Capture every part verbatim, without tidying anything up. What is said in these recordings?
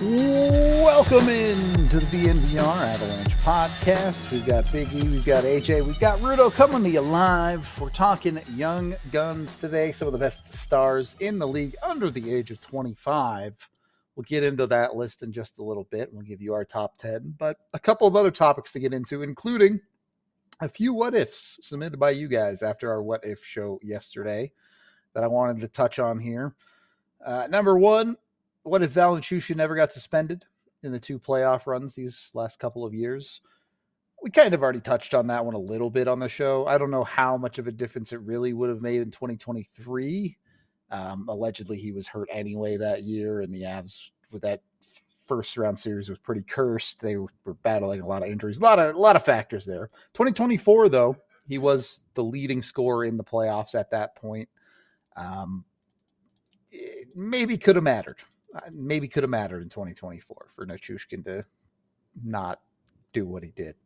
Welcome in to the D N V R Avalanche podcast. We've got Big E, we've got A J, we've got Rudo coming to you live. We're talking young guns today, some of the best stars in the league under the age of twenty-five. We'll get into that list in just a little bit. We'll give you our top ten, but a couple of other topics to get into, including a few what ifs submitted by you guys after our what if show yesterday that I wanted to touch on here. Uh, number one, what if Val Nichushkin never got suspended in the two playoff runs these last couple of years? We kind of already touched on that one a little bit on the show. I don't know how much of a difference it really would have made in twenty twenty-three. Um, allegedly, he was hurt anyway that year, and the Avs with that first round series was pretty cursed. They were battling a lot of injuries, a lot of a lot of factors there. twenty twenty-four, though, he was the leading scorer in the playoffs at that point. Um, it maybe could have mattered. Maybe could have mattered in twenty twenty-four for Nichushkin to not do what he did.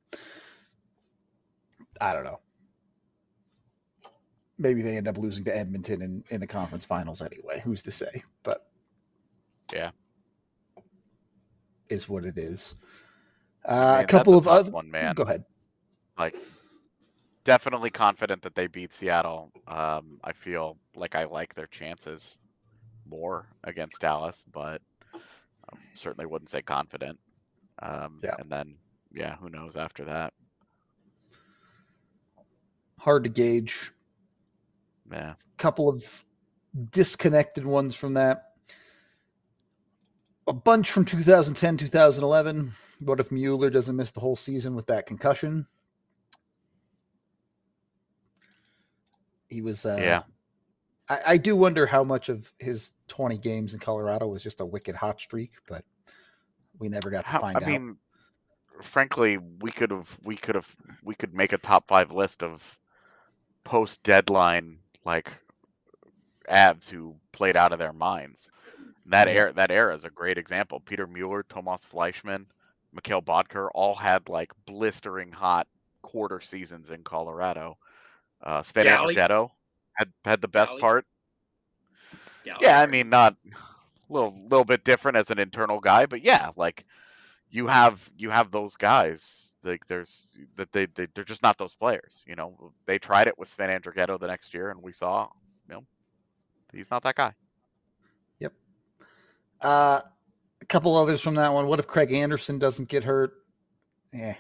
I don't know. Maybe they end up losing to Edmonton in, in the conference finals anyway. Who's to say? But yeah, is what it is. Uh, I mean, a couple of other other one, man. Go ahead. Like, definitely confident that they beat Seattle. Um, I feel like I like their chances more against Dallas, but um, certainly wouldn't say confident. Um, yeah. And then, yeah, who knows after that? Hard to gauge. Yeah. Couple of disconnected ones from that. A bunch from two thousand ten, two thousand eleven. What if Mueller doesn't miss the whole season with that concussion? He was, uh, yeah. I, I do wonder how much of his twenty games in Colorado was just a wicked hot streak, but we never got to How, find I out. I mean, frankly, we could have, we could have, we could make a top five list of post deadline like Avs who played out of their minds. That Yeah. era, that era is a great example. Peter Mueller, Tomas Fleischmann, Mikhail Bodker all had like blistering hot quarter seasons in Colorado. Uh, Sven Galley. Andrighetto had had the best Galley. part. Galley, Yeah, I right? mean, not a little little bit different as an internal guy, but yeah, like you have you have those guys. Like there's that they, they they're just not those players. You know, they tried it with Sven Andrighetto the next year, and we saw, you know, he's not that guy. Yep. Uh, a couple others from that one. What if Craig Anderson doesn't get hurt? Eh.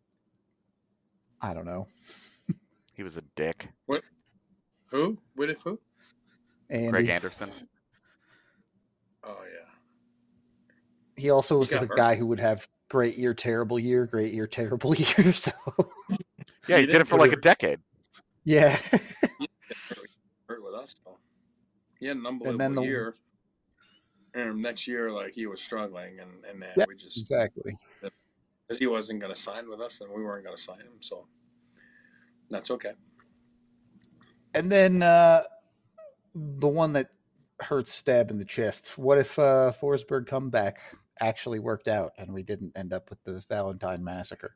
I don't know. He was a dick. What? Who? What if who? Andy. Craig Anderson. Oh yeah. He also was He got the hurt. guy who would have great year, terrible year, great year, terrible year. So Yeah, he, He did didn't it for get like a hurt. decade. yeah. Hurt with us though. He had an unbelievable And then the- year. And next year, like he was struggling, and and then Yeah, we just exactly. because he wasn't going to sign with us, and we weren't going to sign him, so that's okay. And then uh, the one that hurts stab in the chest. What if uh, Forsberg comeback actually worked out and we didn't end up with the Valentine massacre?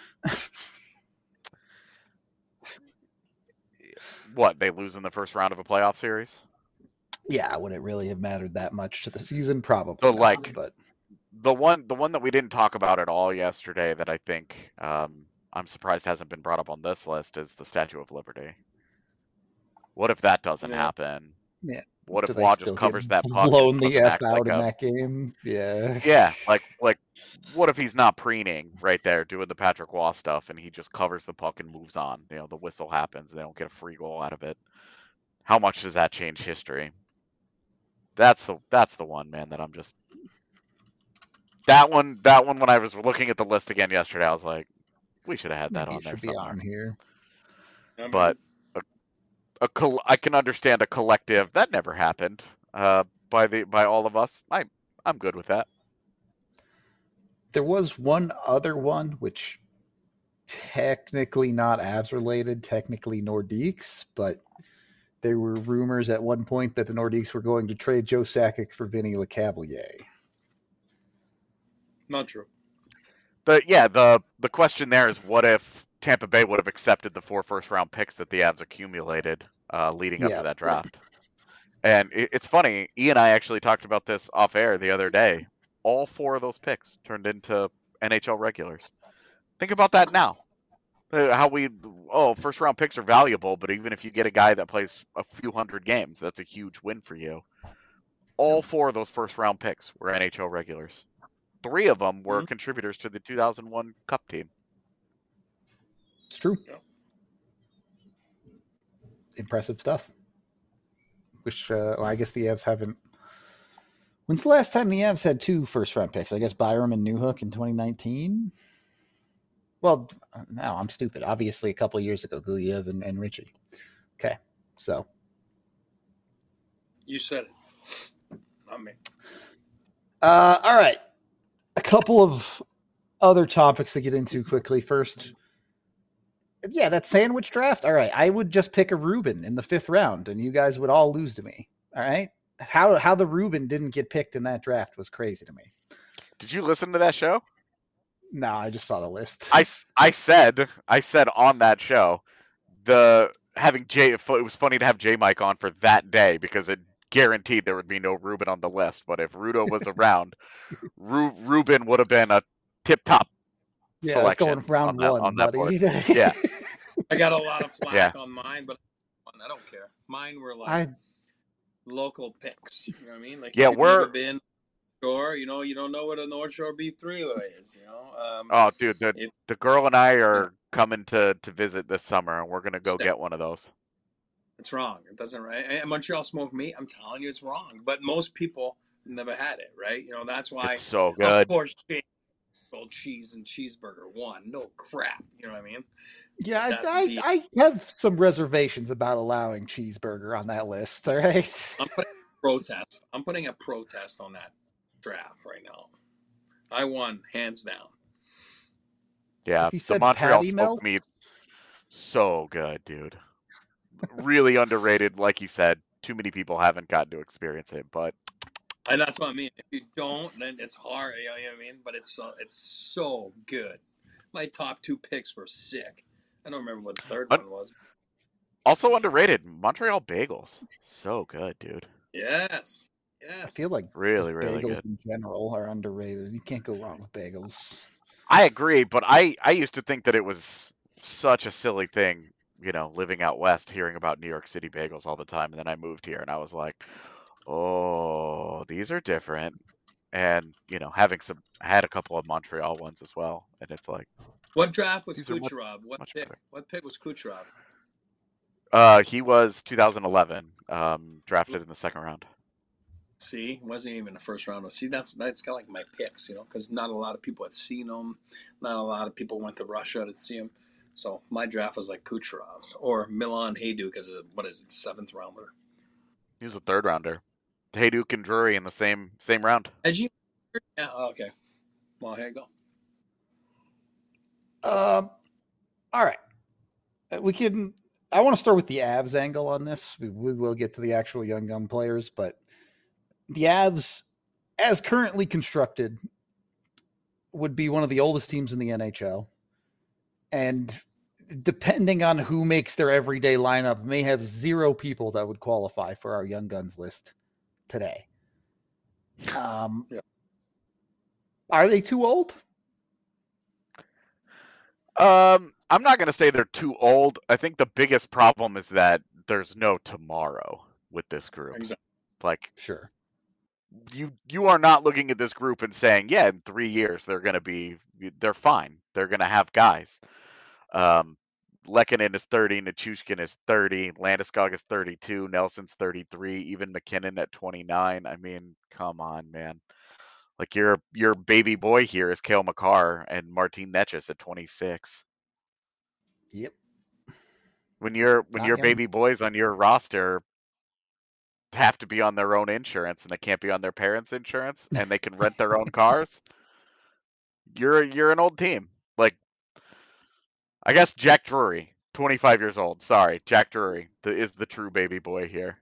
What, they lose in the first round of a playoff series? Yeah, would it really have mattered that much to the season? Probably So, not, like- but The one, the one that we didn't talk about at all yesterday that I think um, I'm surprised hasn't been brought up on this list is the Statue of Liberty. What if that doesn't Yeah. happen? Yeah. What do if they Wah still just get covers that puck? blown and the doesn't F act out like in a- that game? Yeah. Yeah, like like what if he's not preening right there doing the Patrick Waugh stuff and he just covers the puck and moves on? You know, the whistle happens, they don't get a free goal out of it. How much does that change history? That's the that's the one, man, that I'm just that one that one when I was looking at the list again yesterday, I was like, we should have had that Maybe on it there should be somewhere. on here. I mean, But a, a col- I can understand a collective that never happened uh, by the by all of us. I I'm good with that. There was one other one, which technically not Avs related, technically Nordiques, but there were rumors at one point that the Nordiques were going to trade Joe Sakic for Vinny Lecavalier. not true. The yeah the the question there is what if Tampa Bay would have accepted the four first round picks that the Avs accumulated uh, leading up Yeah. to that draft. And it, it's funny, E and I actually talked about this off air the other day. all four of those picks turned into N H L regulars. Think about that now. Uh, How we, oh, first round picks are valuable, but even if you get a guy that plays a few hundred games, that's a huge win for you. All four of those first round picks were N H L regulars. Three of them were Mhm. contributors to the two thousand one Cup team. It's true. Yeah. Impressive stuff. Which, uh, well, I guess the Avs haven't. When's the last time the Avs had two first round picks? I guess Byram and Newhook in twenty nineteen. Well, no, I'm stupid. Obviously, a couple of years ago, Gulyev and, and Richie. Okay, so You said it. Not me. uh, all right. A couple of other topics to get into quickly. First, yeah, that sandwich draft. All right, I would just pick a Rubin in the fifth round, and you guys would all lose to me. All right, how how the Rubin didn't get picked in that draft was crazy to me. Did you listen to that show? No, I just saw the list. I, s- I said I said on that show the having Jay it was funny to have J Mike on for that day because it guaranteed there would be no Ruben on the list. But if Rudo was around, Ru- Ruben would have been a tip top Yeah, let's go selection in round on that, one, on that buddy. board. Yeah. I got a lot of flack Yeah. on mine, but I don't care. Mine were like I local picks. You know what I mean? Like Yeah, if you've we're- never been Shore, you know, you don't know what a North Shore Beef three is. You know. Um, Oh, dude, the it- the girl and I are coming to to visit this summer, and we're gonna go Sick. get one of those. It's wrong. It doesn't right. And Montreal smoked meat. I'm telling you, it's wrong. But most people never had it, right? You know, that's why. It's so Of good. course, old cheese and cheeseburger one. No crap. You know what I mean? yeah, That's I, beef. I I have some reservations about allowing cheeseburger on that list. All right. I'm putting a protest. I'm putting a protest on that draft right now. I won hands down. Yeah, He the said Montreal patty melt? smoked meat's so good, dude. Really underrated, like you said. Too many people haven't gotten to experience it, but And that's what I mean. If you don't, then it's hard. You know what I mean? But it's so it's so good. My top two picks were sick. I don't remember what the third Un- one was. also underrated. Montreal bagels, so good, dude. Yes. Yes. I feel like Really, just really bagels good. in general are underrated. You can't go wrong with bagels. I agree, but I I used to think that it was such a silly thing, you know, living out west, hearing about New York City bagels all the time, and then I moved here, and I was like, oh, these are different. And you know, having some, I had a couple of Montreal ones as well, and it's like, What draft was These are much- Kucherov? What much pick? better. What pick was Kucherov? uh, he was two thousand eleven, um, drafted in the second round. See, wasn't even the first round. See, that's that's kind of like my picks, you know, because not a lot of people had seen him. Not a lot of people went to Russia to see him. So my draft was like Kucherov or Milan Hajduk as a what is it, seventh rounder. He was a third rounder. Hayduk and Drury in the same same round. As you, yeah, okay. Well, here you go. Um, all right. Uh, We can. I want to start with the Avs angle on this. We, we will get to the actual young gun players, but the Avs, as currently constructed, would be one of the oldest teams in the N H L, and depending on who makes their everyday lineup, may have zero people that would qualify for our young guns list today. Um, Yeah. Are they too old? Um, I'm not gonna say they're too old. I think the biggest problem is that there's no tomorrow with this group. Exactly. Like Sure. you, you are not looking at this group and saying, yeah, in three years they're gonna be, they're fine. They're gonna have guys. Um, Lehkonen is thirty, Nichushkin is thirty, Landeskog is thirty-two, Nelson's thirty-three, even McKinnon at twenty-nine. I mean, come on, man. Like your your baby boy here is Cale Makar and Martin Necas at twenty-six. Yep. When your when Not your young. baby boys on your roster have to be on their own insurance and they can't be on their parents' insurance and they can rent their own cars, you're you're an old team. Like I guess Jack Drury, twenty-five years old. Sorry, Jack Drury the, is the true baby boy here.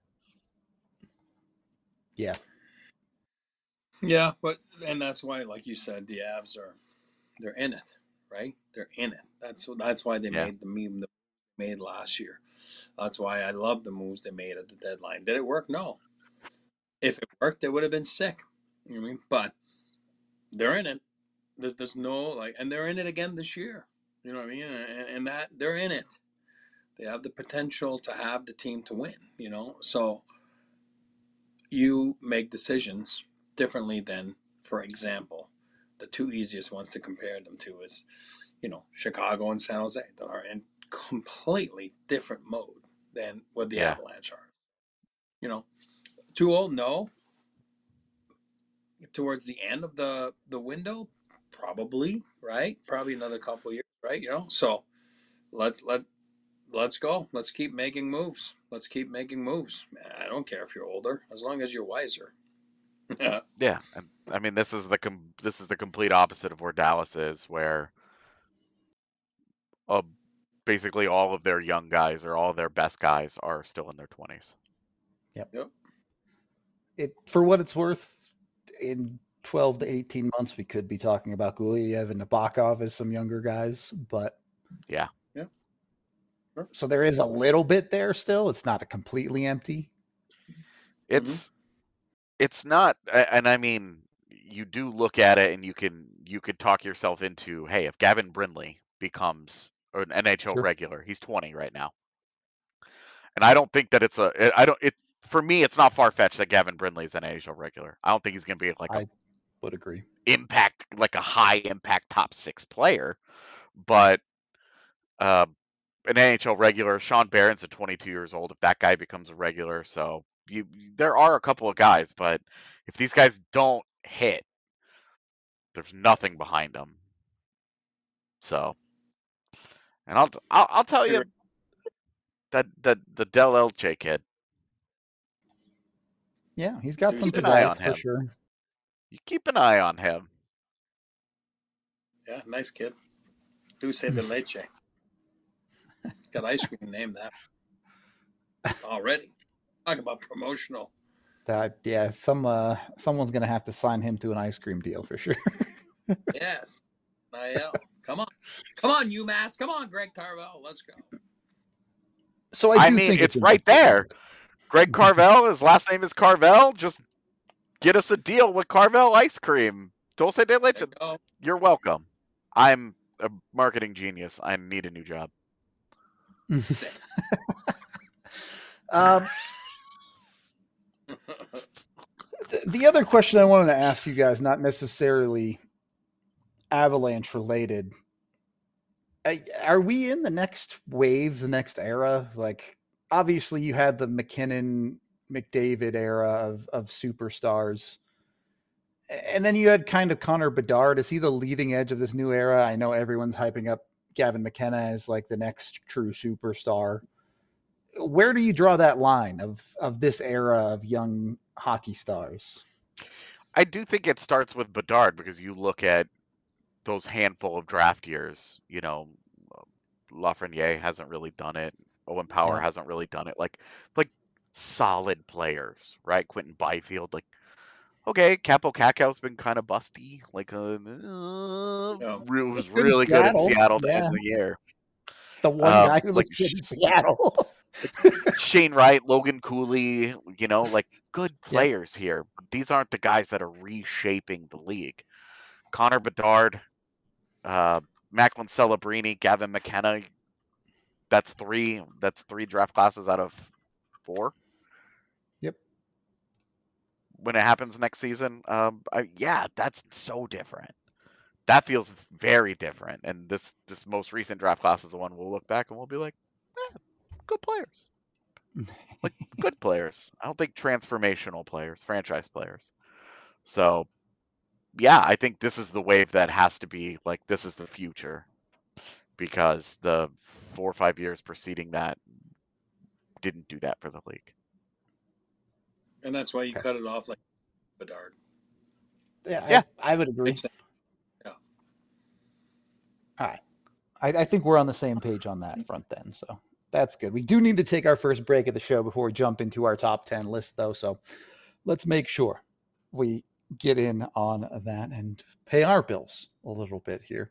Yeah. Yeah, but and that's why, like you said, the Avs are they're in it, right? They're in it. That's that's why they Yeah. made the meme they made last year. That's why I love the moves they made at the deadline. Did it work? No. If it worked, it would have been sick. You know what I mean? But they're in it. There's there's no like, and they're in it again this year. You know what I mean? And, and that they're in it. They have the potential to have the team to win. You know, so you make decisions differently than, for example, the two easiest ones to compare them to is, you know, Chicago and San Jose that are in completely different mode than what the Yeah. Avalanche are. You know, too old? No. Towards the end of the the window, probably, right? Probably another couple years, right? You know, so let's let let's go. Let's keep making moves. Let's keep making moves. I don't care if you're older, as long as you're wiser. Yeah. Yeah, and I mean this is the com- this is the complete opposite of where Dallas is, where uh, basically all of their young guys or all of their best guys are still in their twenties. Yep. Yep. It for what it's worth, in twelve to eighteen months, we could be talking about Guliev and Nabokov as some younger guys, but Yeah. Yeah. Sure. So there is a little bit there still. It's not a completely empty. It's it's not, a- and I mean you do look at it and you can you could talk yourself into, hey, if Gavin Brindley becomes an N H L Sure. regular, he's twenty right now. And I don't think that it's a I don't it for me it's not far fetched that Gavin Brindley is an N H L regular. I don't think he's going to be like a I would agree. impact like a high impact top six player, but uh, an N H L regular. Sean Barron's at twenty-two years old. If that guy becomes a regular, so you there are a couple of guys, but if these guys don't hit, there's nothing behind them. So, and I'll I'll, I'll tell you that that the Del Elche kid. Yeah, he's got Keep some an eye pizzazz on for him. sure. You keep an eye on him. Yeah, nice kid. Dulce de leche. Got ice cream named that already. Talk about promotional. That yeah, some uh someone's gonna have to sign him to an ice cream deal for sure. Yes. I L. Come on. Come on, UMass. Come on, Greg Carvel. Let's go. So I, I do mean, think it's right there. Greg Carvel, his last name is Carvel. Just get us a deal with Carvel ice cream. Dulce de leche. There you go. You're welcome. I'm a marketing genius. I need a new job. Sick. um, the, the other question I wanted to ask you guys, not necessarily Avalanche related. I, are we in the next wave, the next era? Like, obviously, you had the McKinnon, McDavid era of of superstars, and then you had kind of Connor Bedard. Is he the leading edge of this new era? I know everyone's hyping up Gavin McKenna as like the next true superstar. Where do you draw that line of of this era of young hockey stars? I do think it starts with Bedard because you look at those handful of draft years. You know, Lafreniere hasn't really done it. Owen Power Yeah. hasn't really done it. Like, like solid players, right? Quentin Byfield, like, okay, Capo Kakow's been kind of busty. Like, uh, uh, Yeah. re- was Good in really good in Seattle, Seattle to yeah. end the year. The one Um, guy who like looks good in Seattle. Shane Wright, Logan Cooley, you know, like good players here. But these aren't the guys that are reshaping the league. Connor Bedard, uh, Macklin Celebrini, Gavin McKenna. That's three. That's three draft classes out of four. Yep. When it happens next season, um, I, yeah, that's so different. That feels very different. And this this most recent draft class is the one we'll look back and we'll be like, eh, good players. Like good players. I don't think transformational players, franchise players. So, yeah, I think this is the wave that has to be like this is the future, because the four or five years preceding that didn't do that for the league. And that's why you Okay. cut it off like Bedard. Yeah, Yeah. I, I would agree. Makes sense. Yeah. All right. I, I think we're on the same page on that front then. So that's good. We do need to take our first break of the show before we jump into our top ten list, though. So let's make sure we get in on that and pay our bills a little bit here.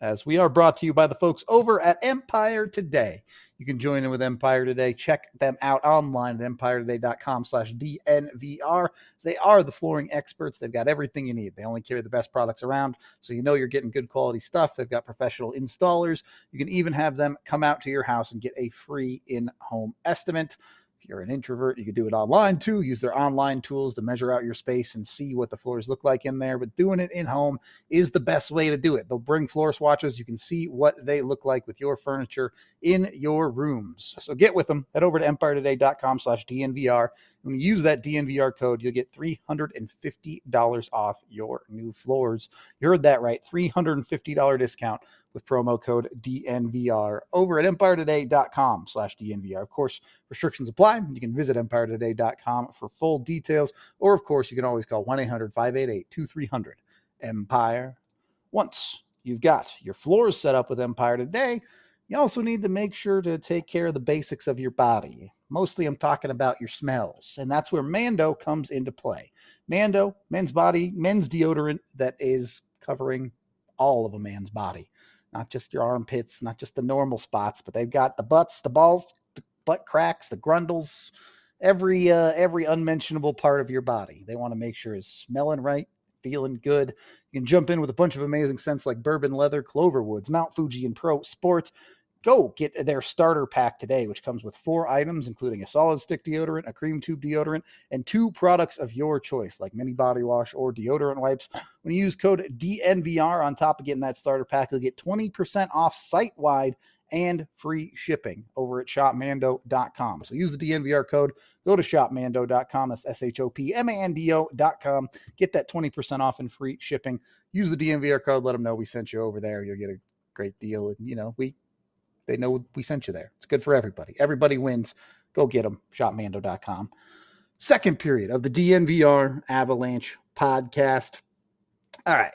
as we are brought to you by the folks over at Empire Today. You can join in with Empire Today. Check them out online at empire today dot com slash D N V R. They are the flooring experts. They've got everything you need. They only carry the best products around, so you know you're getting good quality stuff. They've got professional installers. You can even have them come out to your house and get a free in-home estimate. If you're an introvert, you can do it online too. Use their online tools to measure out your space and see what the floors look like in there. But doing it in home is the best way to do it. They'll bring floor swatches. You can see what they look like with your furniture in your rooms. So get with them. Head over to empire today dot com slash D N V R. When you use that D N V R code, you'll get three hundred fifty dollars off your new floors. You heard that right. three hundred fifty dollars discount with promo code D N V R over at empire today dot com slash D N V R. Of course, restrictions apply. You can visit empire today dot com for full details, or of course, you can always call one eight hundred five eight eight two three zero zero Empire. Once you've got your floors set up with Empire Today, you also need to make sure to take care of the basics of your body. Mostly I'm talking about your smells, and that's where Mando comes into play. Mando, men's body, men's deodorant that is covering all of a man's body. Not just your armpits, not just the normal spots, but they've got the butts, the balls, the butt cracks, the grundles, every uh, every unmentionable part of your body. They want to make sure it's smelling right, feeling good. You can jump in with a bunch of amazing scents like bourbon leather, Cloverwoods, Mount Fuji, and Pro Sports. Go get their starter pack today, which comes with four items, including a solid stick deodorant, a cream tube deodorant, and two products of your choice, like mini body wash or deodorant wipes. When you use code D N V R on top of getting that starter pack, you'll get twenty percent off site-wide and free shipping over at shop mando dot com. So use the D N V R code, go to shop mando dot com, that's S H O P M A N D O dot com, get that twenty percent off and free shipping. Use the D N V R code, let them know we sent you over there. You'll get a great deal, and, you know, we they know we sent you there. It's good for everybody. Everybody wins. Go get them, shop mando dot com. Second period of the D N V R Avalanche podcast. All right,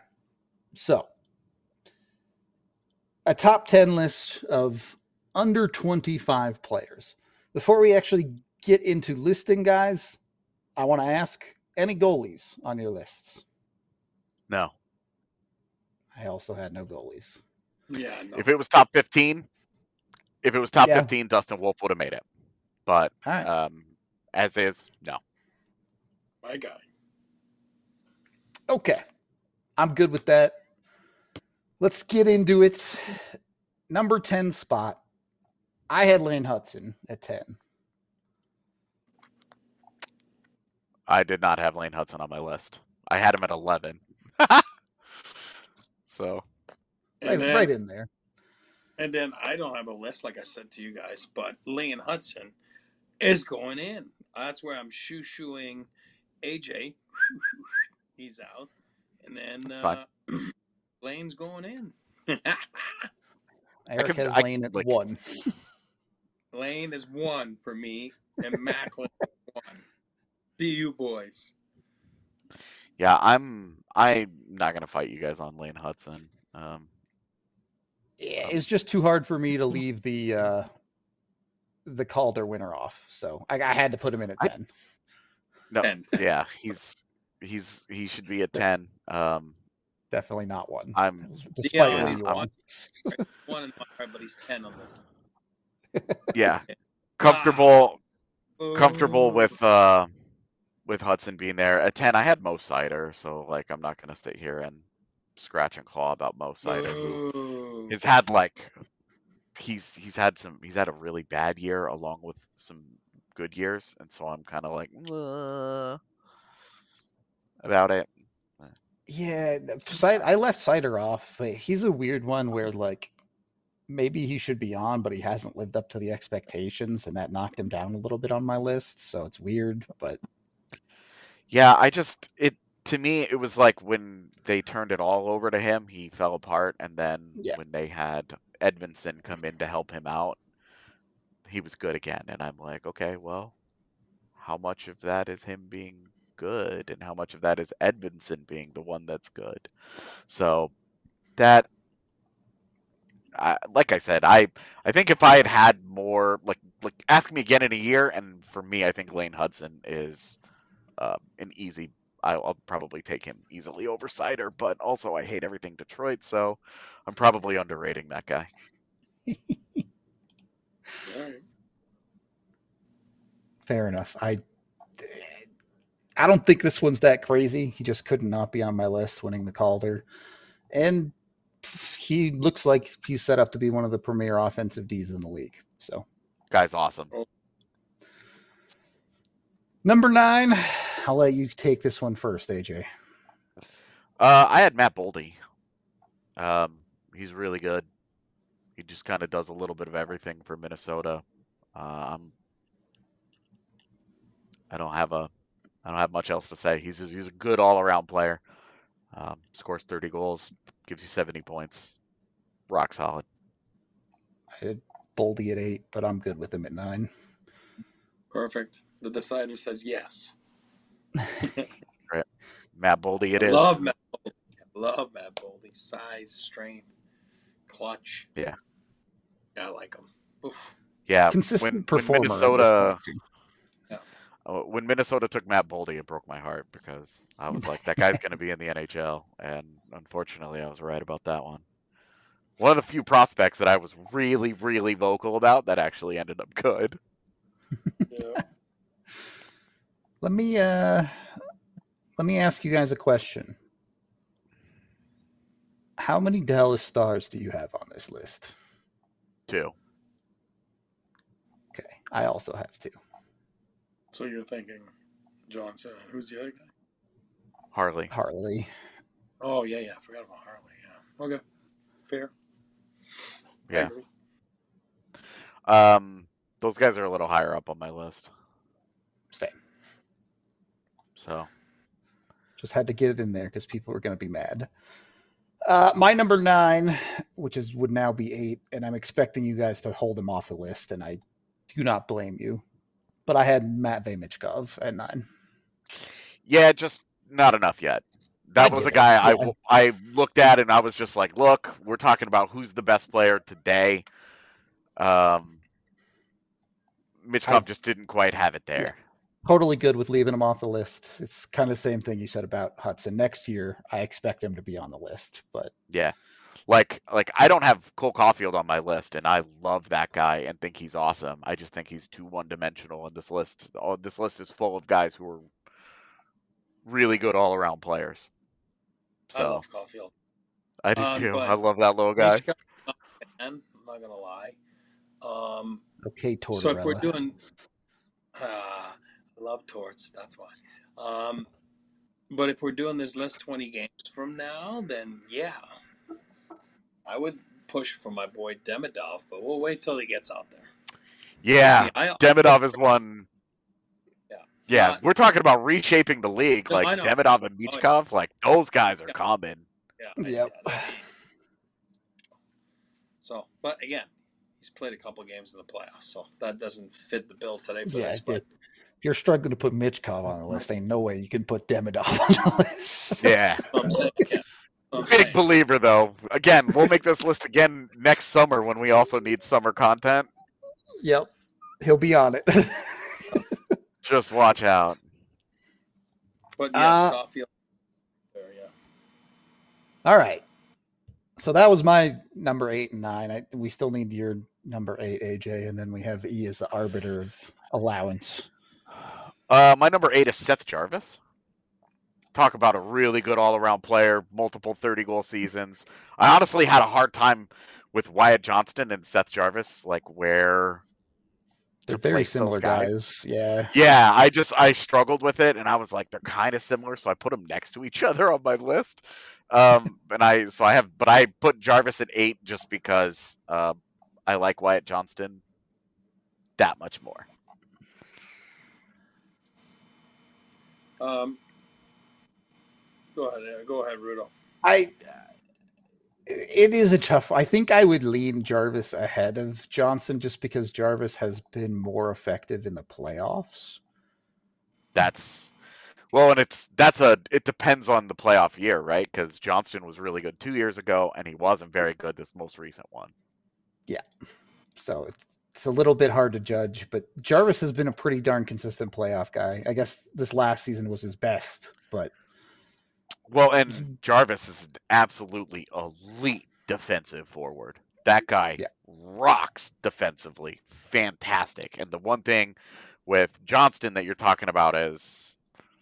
so a top ten list of under twenty-five players. Before we actually get into listing guys, I want to ask, any goalies on your lists? No. I also had no goalies. Yeah, no. If it was top fifteen, if it was top Yeah. fifteen, Dustin Wolf would have made it. But All right. um, as is, no. My guy. Okay. I'm good with that. Let's get into it. Number ten spot. I had Lane Hudson at ten. I did not have Lane Hudson on my list. I had him at eleven. So And Right, then, right in there. and then I don't have a list, like I said to you guys, but Lane Hudson is going in. That's where I'm shoo-shooing A J. He's out. And then That's fine. uh, Lane's going in. Eric can- has I- Lane at like- one. Lane is one for me, and Macklin is one. Be you boys. yeah, I'm I'm not gonna fight you guys on Lane Hudson. Um, Yeah, it's just too hard for me to leave the uh, the Calder winner off. So I, I had to put him in at I- ten. no, ten, ten. yeah, he's he's he should be a ten. Um, Definitely not one. I'm Despite Yeah, what he's you one. want. One in my heart, but he's ten on this. yeah comfortable comfortable Ooh. with uh with Hudson being there. At ten, I had Mo Sider, so like I'm not gonna sit here and scratch and claw about Mo Sider, who Ooh. has had like he's he's had some he's had a really bad year along with some good years, and so I'm kind of like uh, about it. Yeah, Sid- I left Cider off. but He's a weird one where like maybe he should be on, but he hasn't lived up to the expectations, and that knocked him down a little bit on my list. So it's weird, but Yeah, I just it to me it was like when they turned it all over to him, he fell apart, and then Yeah. when they had Edmondson come in to help him out, he was good again, and I'm like, okay, well, how much of that is him being good, and how much of that is Edmondson being the one that's good? So that, I, like I said, I I think if I had had more, like like ask me again in a year, and for me, I think Lane Hudson is uh, an easy I'll probably take him easily over Sider, but also I hate everything Detroit, so I'm probably underrating that guy. All right. Fair enough. I I don't think this one's that crazy. He just could not be on my list winning the Calder. And he looks like he's set up to be one of the premier offensive Ds in the league. So, guy's awesome. Number nine, I'll let you take this one first, A J. Uh, I had Matt Boldy. Um, he's really good. He just kind of does a little bit of everything for Minnesota. Um, I don't have a, I don't have much else to say. He's he's a good all-around player. Um, scores thirty goals, gives you seventy points. Rock solid. I had Boldy at eight, but I'm good with him at nine. Perfect. The decider says yes. Right. Matt Boldy it I is. Love Matt Boldy. Love Matt Boldy. Size, strength, clutch. Yeah. Yeah, I like him. Oof. Yeah. Consistent when, performer. When Minnesota, yeah. uh, when Minnesota took Matt Boldy, it broke my heart because I was like, that guy's going to be in the N H L. And unfortunately, I was right about that one. One of the few prospects that I was really, really vocal about that actually ended up good. Yeah. Let me uh, let me ask you guys a question. How many Dallas Stars do you have on this list? Two. Okay, I also have two. So you're thinking Johnson. Who's the other guy? Harley. Harley. Oh, yeah, yeah. I forgot about Harley. Yeah. Okay. Fair. Yeah. Um, those guys are a little higher up on my list. Same. So. Just had to get it in there because people were going to be mad. Uh, my number nine, which is would now be eight, and I'm expecting you guys to hold him off the list, and I do not blame you. But I had Matt Vaymichkov at nine. Yeah, just not enough yet. That was a guy I, yeah. I looked at and I was just like, look, we're talking about who's the best player today. Um, Michkov just didn't quite have it there. Yeah. Totally good with leaving him off the list. It's kind of the same thing you said about Hudson. Next year, I expect him to be on the list, but yeah, like like I don't have Cole Caulfield on my list, and I love that guy and think he's awesome. I just think he's too one-dimensional, and this list, oh, this list is full of guys who are really good all-around players. So, I love Caulfield. I do um, too. I love that little guy. I'm not gonna lie. Um, okay, Tortorella. So if we're doing. Uh, I love Torts, that's why. Um, but if we're doing this list twenty games from now, then yeah, I would push for my boy Demidov, but we'll wait till he gets out there. Yeah, I mean, I, Demidov is one. Yeah, yeah, Not, we're talking about reshaping the league. No, like Demidov and Michkov, oh, yeah. like those guys are yeah. common. Yeah. Yep. Yeah, so, but again, he's played a couple games in the playoffs, so that doesn't fit the bill today for yeah, this. But if you're struggling to put Michkov on the list, ain't no way you can put Demidov on the list. Yeah. I'm saying, yeah. I'm Big saying. believer, though. Again, we'll make this list again next summer when we also need summer content. Yep. He'll be on it. Just watch out. But yes, uh, Caulfield. There, yeah. All right. So that was my number eight and nine. I, we still need your number eight, A J, and then we have E as the arbiter of allowance. Uh, my number eight is Seth Jarvis. Talk about a really good all-around player, multiple thirty-goal seasons. I honestly had a hard time with Wyatt Johnston and Seth Jarvis, like where they're very similar guys. guys. Yeah. Yeah, I just I struggled with it, and I was like, they're kind of similar, so I put them next to each other on my list. Um, and I so I have, but I put Jarvis at eight just because uh, I like Wyatt Johnston that much more. Um, go ahead, go ahead, Rudo. I. It is a tough. I think I would lean Jarvis ahead of Johnson just because Jarvis has been more effective in the playoffs. That's. Well, and it's that's a it depends on the playoff year, right? Because Johnston was really good two years ago, and he wasn't very good this most recent one. Yeah, so it's it's a little bit hard to judge, but Jarvis has been a pretty darn consistent playoff guy. I guess this last season was his best, but well, and Jarvis is an absolutely elite defensive forward. That guy yeah. rocks defensively, fantastic. And the one thing with Johnston that you're talking about is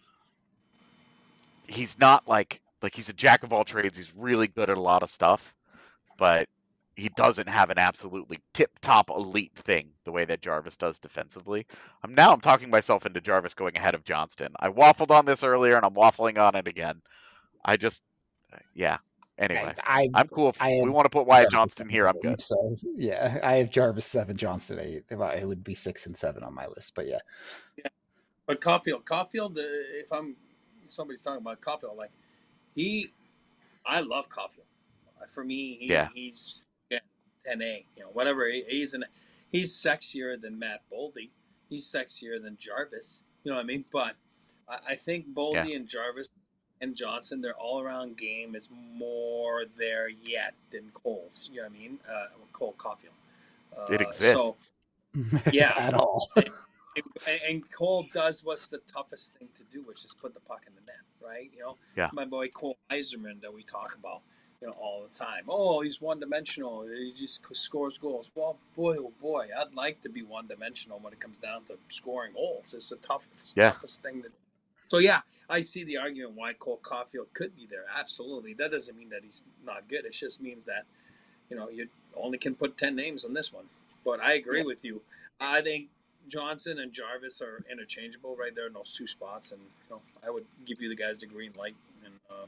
he's not like like he's a jack of all trades. He's really good at a lot of stuff, but he doesn't have an absolutely tip-top elite thing the way that Jarvis does defensively. I'm now I'm talking myself into Jarvis going ahead of Johnston. I waffled on this earlier, and I'm waffling on it again. I just, yeah. Anyway, I, I I'm cool. If I we want to put Wyatt Jarvis Johnston here, I'm good. So yeah, I have Jarvis seven, Johnston eight. If I, it would be six and seven on my list, but yeah. Yeah, but Caulfield, Caulfield. Uh, if I'm somebody's talking about Caulfield, like he, I love Caulfield. Uh, for me, he, Yeah. he's yeah, ten A. You know, whatever. He, he's an he's sexier than Matt Boldy. He's sexier than Jarvis. You know what I mean? But I, I think Boldy Yeah. and Jarvis and Johnson, their all-around game is more there yet than Cole's. You know what I mean? Uh, Cole Caulfield. Uh, It exists. So, yeah. At all. and, and Cole does what's the toughest thing to do, which is put the puck in the net, right? You know, Yeah. my boy Cole Eiserman that we talk about, you know, all the time. Oh, he's one-dimensional. He just scores goals. Well, boy, oh boy, I'd like to be one-dimensional when it comes down to scoring goals. It's the toughest, Yeah. toughest thing to do. So, yeah, I see the argument why Cole Caulfield could be there. Absolutely. That doesn't mean that he's not good. It just means that, you know, you only can put ten names on this one. But I agree with you. I think Johnson and Jarvis are interchangeable right there in those two spots. And, you know, I would give you the guys the green light and uh,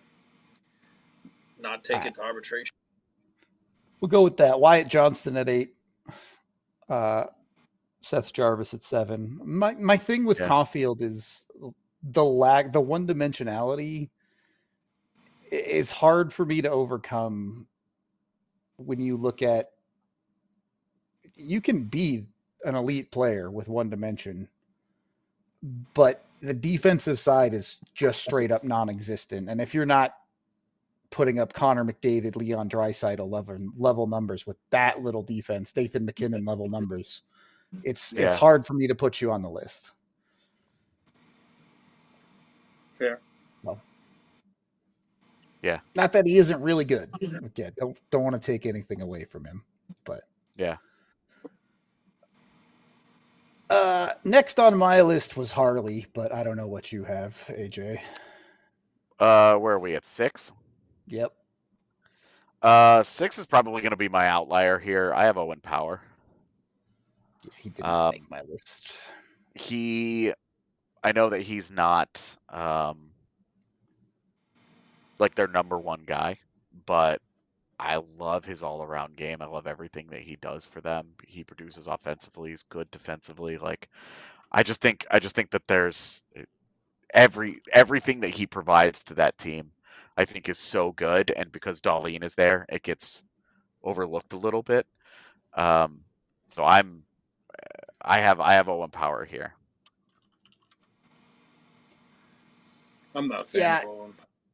not take it to arbitration. We'll go with that. Wyatt Johnston at eight. Uh, Seth Jarvis at seven. My my thing with Yeah. Caulfield is the lag, the one dimensionality is hard for me to overcome when you look at, you can be an elite player with one dimension, but the defensive side is just straight up non-existent. And if you're not putting up Connor McDavid, Leon Draisaitl level, level numbers with that little defense, Nathan McKinnon level numbers, it's it's Yeah. hard for me to put you on the list. Fair. Well, Yeah. not that he isn't really good. Again, don't don't want to take anything away from him, but Yeah. uh, next on my list was Harley, but I don't know what you have, A J. Uh, where are we at six? Yep. Uh, six is probably going to be my outlier here. I have Owen Power. Yeah, he didn't Um, make my list. He, I know that he's not um, like their number one guy, but I love his all-around game. I love everything that he does for them. He produces offensively. He's good defensively. Like, I just think, I just think that there's every everything that he provides to that team, I think is so good. And because Darlene is there, it gets overlooked a little bit. Um, so I'm, I have, I have Owen Power here. I'm not a fan Yeah. of Owen.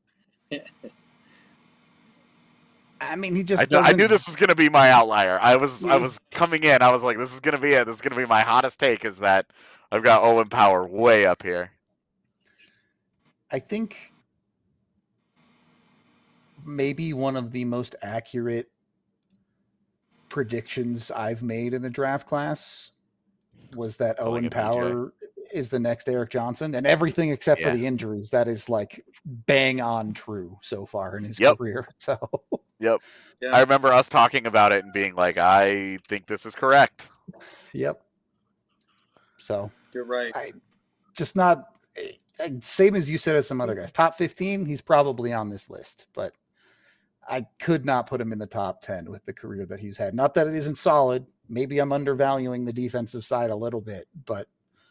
I mean, he just I, kn- I knew doesn't- this was going to be my outlier. I was, I He- was coming in. I was like, this is going to be it. This is going to be my hottest take. Is that I've got Owen Power way up here. I think maybe one of the most accurate predictions I've made in the draft class was that Calling Owen it B J. Power is the next Eric Johnson, and everything except Yeah. for the injuries, that is like bang on true so far in his Yep. career. So Yep. Yeah. I remember us talking about it and being like, I think this is correct. yep. So You're right. I just not eh, same as you said as some other guys. Top fifteen, he's probably on this list, but I could not put him in the top ten with the career that he's had. Not that it isn't solid. Maybe I'm undervaluing the defensive side a little bit, but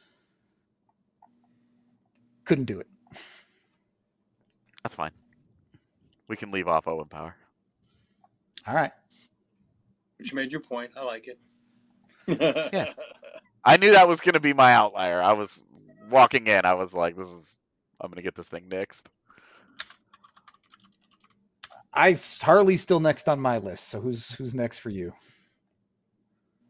couldn't do it. That's fine. We can leave off Owen Power. All right. But you made your point. I like it. Yeah. I knew that was going to be my outlier. I was walking in. I was like, this is, I'm going to get this thing next. I Harley's still next on my list. So who's who's next for you?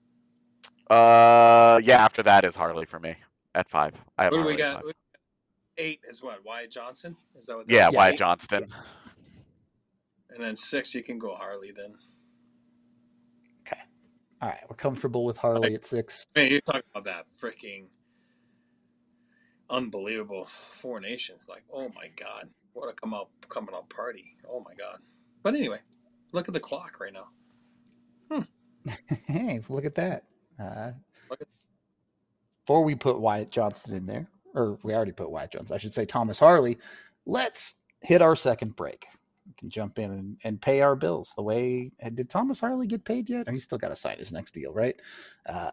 Uh, yeah, after that is Harley for me at five. I have What do we Harley at got? five. eight is what? Wyatt Johnson? Is that what that Yeah, is? Wyatt Eight? Johnston. And then six, you can go Harley then. Okay. All right. We're comfortable with Harley Like, at six. Man, you're talking about that freaking unbelievable Four Nations. Like, oh my God. What a come out coming out party. Oh my God. But anyway, look at the clock right now. Hey, look at that. Uh, Look at before we put Wyatt Johnson in there, or we already put Wyatt Johnson, I should say Thomas Harley, let's hit our second break. We can jump in and, and pay our bills. The way, did Thomas Harley get paid yet? Or he's still got to sign his next deal, right? Uh,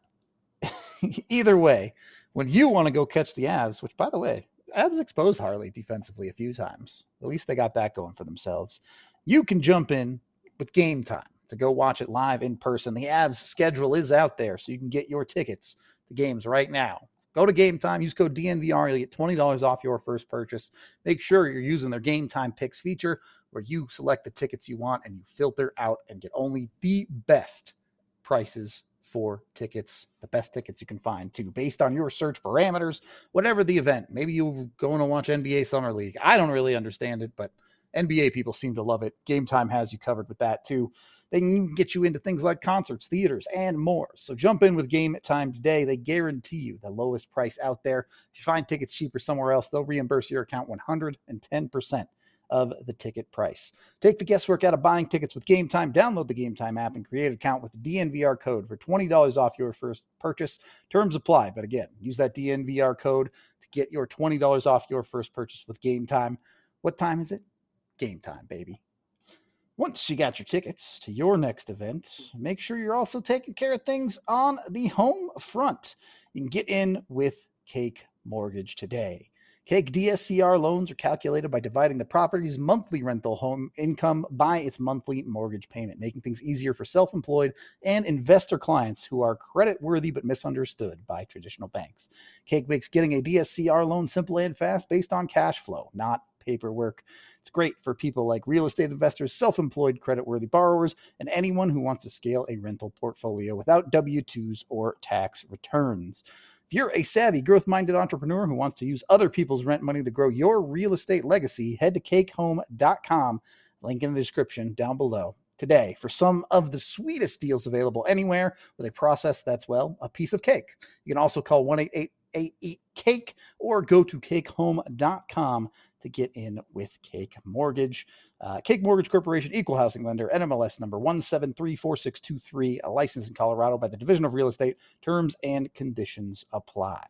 either way, when you want to go catch the Avs, which by the way, Avs exposed Harley defensively a few times. At least they got that going for themselves. You can jump in with Game Time to go watch it live in person. The Avs schedule is out there, so you can get your tickets to games right now. Go to Game Time, use code D N V R, you'll get twenty dollars off your first purchase. Make sure you're using their Game Time Picks feature where you select the tickets you want and you filter out and get only the best prices for tickets, the best tickets you can find too, based on your search parameters, whatever the event. Maybe you're going to watch N B A Summer League. I don't really understand it, but N B A people seem to love it. Game Time has you covered with that too. They can get you into things like concerts, theaters, and more. So jump in with Game Time today. They guarantee you the lowest price out there. If you find tickets cheaper somewhere else, they'll reimburse your account one hundred ten percent of the ticket price. Take the guesswork out of buying tickets with Game Time. Download the Game Time app and create an account with the D N V R code for twenty dollars off your first purchase. Terms apply, but again, use that D N V R code to get your twenty dollars off your first purchase with Game Time. What time is it? Game Time, baby. Once you got your tickets to your next event, make sure you're also taking care of things on the home front. You can get in with Cake Mortgage today. Cake D S C R loans are calculated by dividing the property's monthly rental home income by its monthly mortgage payment, making things easier for self-employed and investor clients who are credit-worthy but misunderstood by traditional banks. Cake makes getting a D S C R loan simple and fast based on cash flow, not paperwork. It's great for people like real estate investors, self-employed credit-worthy borrowers, and anyone who wants to scale a rental portfolio without W two's or tax returns. If you're a savvy, growth-minded entrepreneur who wants to use other people's rent money to grow your real estate legacy, head to cake home dot com, link in the description down below today for some of the sweetest deals available anywhere with a process that's, well, a piece of cake. You can also call one eight eight eight eat cake or go to cake home dot com to get in with Cake Mortgage. Uh, Cake Mortgage Corporation, equal housing lender, N M L S number one seven three four six two three, a license in Colorado by the Division of Real Estate. Terms and conditions apply.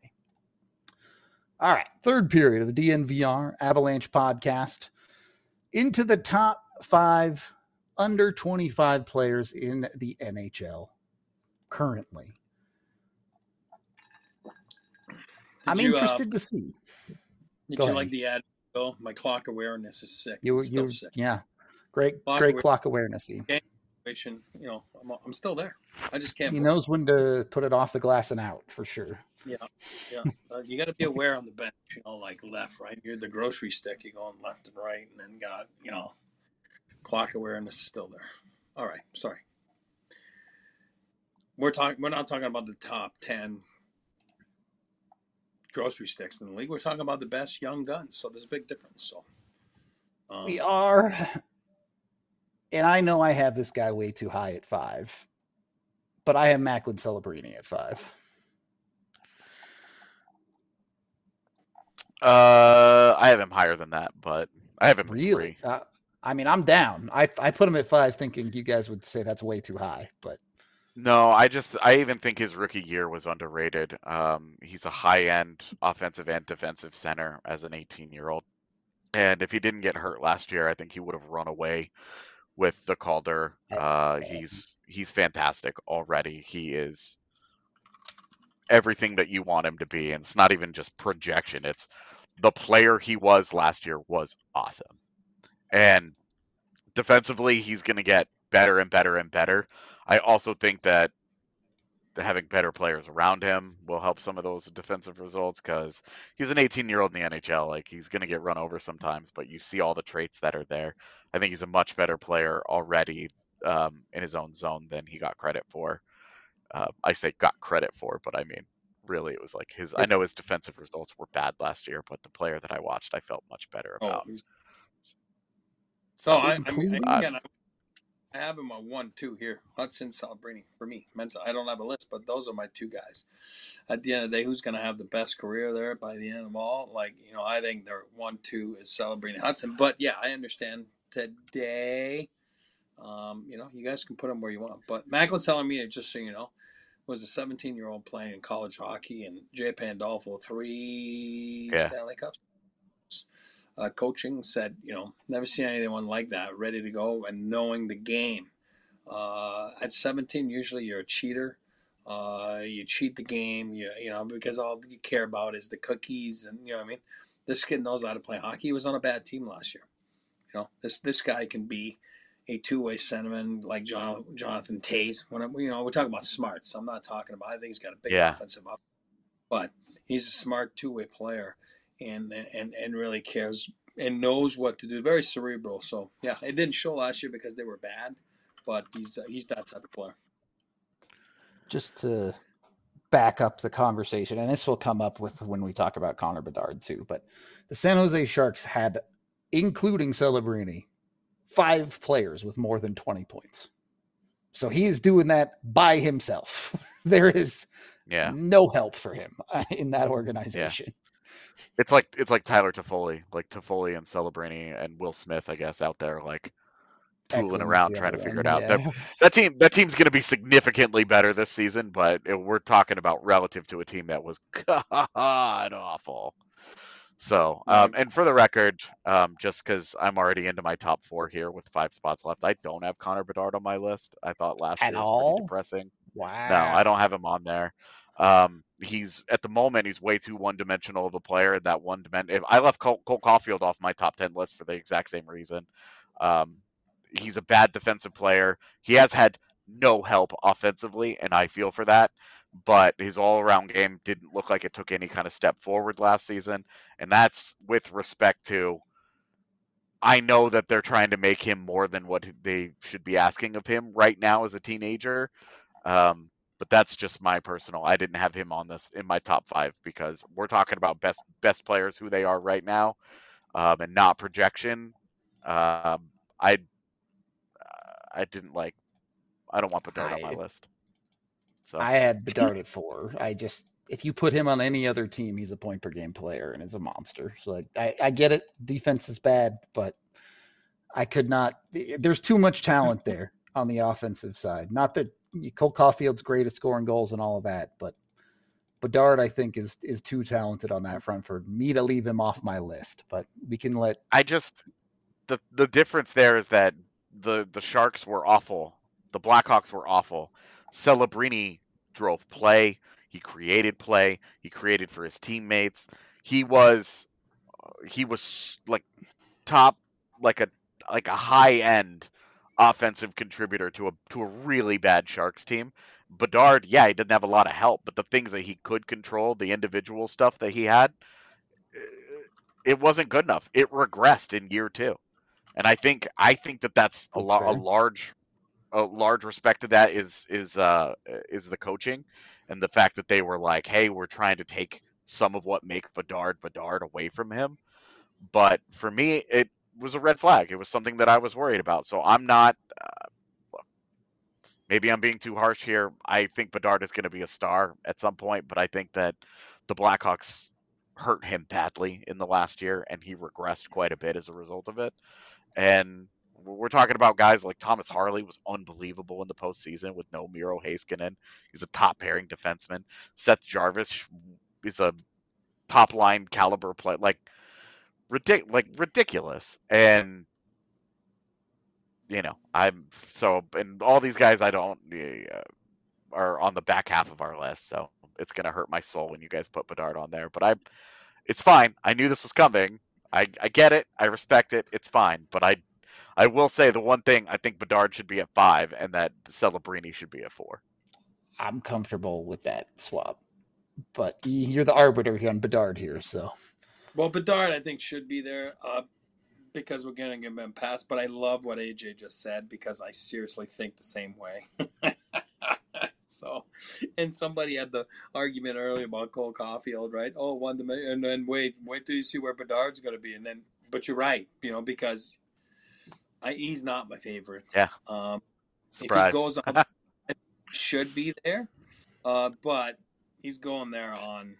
All right, third period of the D N V R Avalanche podcast. Into the top five under twenty-five players in the N H L currently. Did I'm you, interested uh, to see. Did Go you ahead. like the ad? Oh, my clock awareness is sick. You, it's still you, sick. yeah, great, Clock great aware- clock awareness. You know, I'm, I'm still there. I just can't. He move. knows when to put it off the glass and out for sure. Yeah, yeah. Uh, you got to be aware on the bench. You know, like left, right. You're the grocery stick. You're going left and right, and then got you know, clock awareness is still there. All right, sorry. We're talking. We're not talking about the top ten grocery sticks in the league. We're talking about the best young guns. So there's a big difference. So um, We are, and I know I have this guy way too high at five, but I have Macklin Celebrini at five. Uh, I have him higher than that, but I have him at Really? three. Uh, I mean, I'm down. I I put him at five, thinking you guys would say that's way too high, but No, I just I even think his rookie year was underrated. Um, he's a high-end offensive and defensive center as an eighteen-year-old, and if he didn't get hurt last year, I think he would have run away with the Calder. Uh, he's he's fantastic already. He is everything that you want him to be, and it's not even just projection. It's the player he was last year was awesome, and defensively, he's going to get better and better and better. I also think that having better players around him will help some of those defensive results because he's an eighteen-year-old in the N H L. Like, he's going to get run over sometimes, but you see all the traits that are there. I think he's a much better player already um, in his own zone than he got credit for. Uh, I say got credit for, but I mean really it was like his. I know his defensive results were bad last year, but the player that I watched, I felt much better Oh, about. he's- So oh, I, I mean, Including- I- again, I have him on one, two here. Hudson, Celebrini for me. Mensa, I don't have a list, but those are my two guys. At the end of the day, who's going to have the best career there by the end of all? Like, you know, I think their one, two is Celebrini, Hudson. But yeah, I understand today. Um, you know, you guys can put them where you want. But Macklin Celebrini, just so you know, was a seventeen-year-old playing in college hockey, and Jay Pandolfo three Yeah. Stanley Cups. Uh, coaching said, you know, never seen anyone like that, ready to go and knowing the game. Uh, at seventeen, usually you're a cheater. Uh, you cheat the game, you, you know, because all you care about is the cookies, and you know what I mean. This kid knows how to play hockey. He was on a bad team last year. You know, this this guy can be a two-way centerman like John, Jonathan Toews. When I'm, you know, we're talking about smarts. I'm not talking about. I think he's got a big Yeah. offensive up, but he's a smart two-way player, and and and really cares and knows what to do. Very cerebral. So yeah, it didn't show last year because they were bad, but he's uh, he's that type of player. Just to back up the conversation, and this will come up with when we talk about Connor Bedard too, but the San Jose Sharks had, including Celebrini, five players with more than twenty points. So he is doing that by himself. There is yeah. no help for him uh, in that organization. It's like it's like Tyler Toffoli, like Toffoli and Celebrini and Will Smith, I guess, out there like tooling Eklund's around the trying to other figure it one, out. yeah. That, that team that team's going to be significantly better this season, but it, we're talking about relative to a team that was god awful. So, um, and for the record, um, just because I'm already into my top four here with five spots left, I don't have Connor Bedard on my list. I thought last At year was all? pretty depressing. Wow. No, I don't have him on there. Um, he's at the moment he's way too one-dimensional of a player. And that one dimension, I left Cole, Cole Caulfield off my top ten list for the exact same reason. Um, he's a bad defensive player. He has had no help offensively, and I feel for that. But his all-around game didn't look like it took any kind of step forward last season, and that's with respect to. I know that they're trying to make him more than what they should be asking of him right now as a teenager. Um, but that's just my personal. I didn't have him on this in my top five because we're talking about best best players who they are right now, um, and not projection. Um, I I didn't like. I don't want Bedard on my I- list. So I had Bedard at four. I just, if you put him on any other team, he's a point per game player and is a monster. So like, I, I get it. Defense is bad, but I could not. There's too much talent there on the offensive side. Not that Cole Caulfield's great at scoring goals and all of that, but Bedard, I think, is is too talented on that front for me to leave him off my list. But we can let. I just the the difference there is that the the Sharks were awful. The Blackhawks were awful. Celebrini drove play. He created play. He created for his teammates. He was he was like top like a like a high end offensive contributor to a to a really bad Sharks team. Bedard, yeah, he didn't have a lot of help, but the things that he could control, the individual stuff that he had, it wasn't good enough. It regressed in year two, and I think I think that that's a That's lot a fair. large a large respect to that is is uh is the coaching and the fact that they were like, hey, we're trying to take some of what makes Bedard Bedard away from him. But for me, it was a red flag. It was something that I was worried about. So I'm not. Uh, look, maybe I'm being too harsh here. I think Bedard is going to be a star at some point, but I think that the Blackhawks hurt him badly in the last year, and he regressed quite a bit as a result of it. And we're talking about guys like Thomas Harley was unbelievable in the postseason with no Miro Heiskanen. He's a top pairing defenseman. Seth Jarvis is a top line caliber play, like ridic- like ridiculous. And you know, I'm so and all these guys I don't uh, are on the back half of our list, so it's gonna hurt my soul when you guys put Bedard on there. But I, it's fine. I knew this was coming. I I get it. I respect it. It's fine. But I. I will say the one thing I think Bedard should be at five, and that Celebrini should be at four. I'm comfortable with that swap, but you're the arbiter here on Bedard here, so. Well, Bedard, I think, should be there uh, because we're going to give him a pass. But I love what A J just said because I seriously think the same way. So, and somebody had the argument earlier about Cole Caulfield, right? Oh, one dimension, and then wait, wait till you see where Bedard's going to be, and then. But you're right, you know, because I, he's not my favorite. Yeah. Um, Surprise. If he goes out, it should be there, uh, but he's going there on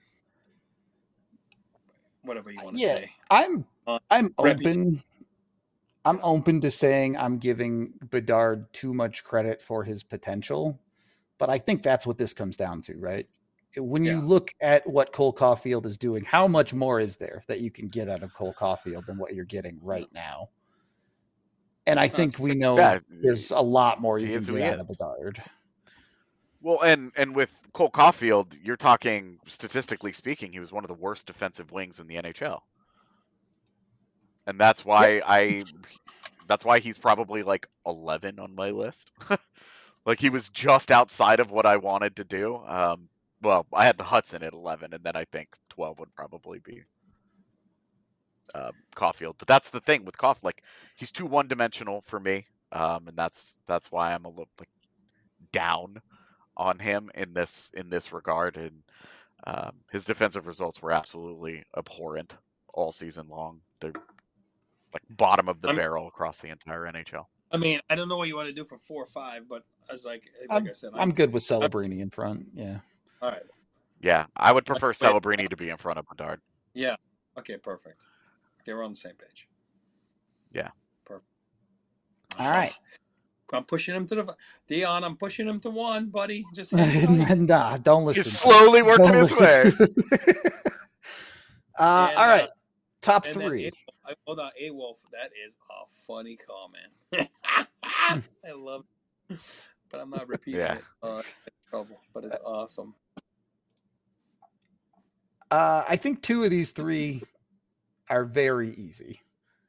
whatever you want to Yeah, say. I'm Uh, I'm reputation. open. I'm open to saying I'm giving Bedard too much credit for his potential, but I think that's what this comes down to, right? When you Yeah. look at what Cole Caulfield is doing, how much more is there that you can get out of Cole Caulfield than what you're getting right now? And I think That's we fair. know Yeah, there's a lot more you he can is who get he out is. of Bedard. Well, and and with Cole Caulfield, you're talking statistically speaking, he was one of the worst defensive wings in the N H L, and that's why Yep. I, that's why he's probably like eleven on my list. Like he was just outside of what I wanted to do. Um, well, I had the Hudson at eleven, and then I think twelve would probably be uh, Caulfield. But that's the thing with Caulfield, like he's too one dimensional for me, um, and that's that's why I'm a little like down on him in this in this regard. And um, his defensive results were absolutely abhorrent all season long. They're like bottom of the I'm, barrel across the entire N H L. I mean, I don't know what you want to do for four or five, but as like like I'm, I said, I'm good with Celebrini in front. Yeah. All right. Yeah, I would prefer Wait. Celebrini to be in front of Bedard. Yeah. Okay. Perfect. Okay, we're on the same page. Yeah. Perfect. All right. I'm pushing him to the Dion. I'm pushing him to one, buddy. Just hang tight. Nah, don't listen. He's slowly working Don't his way. listen. uh, And, all right, uh, top and three. A- hold on, A Wolf. That is a funny comment. I love it, but I'm not repeating Yeah. it. Uh, in trouble, but it's awesome. Uh, I think two of these three are very easy,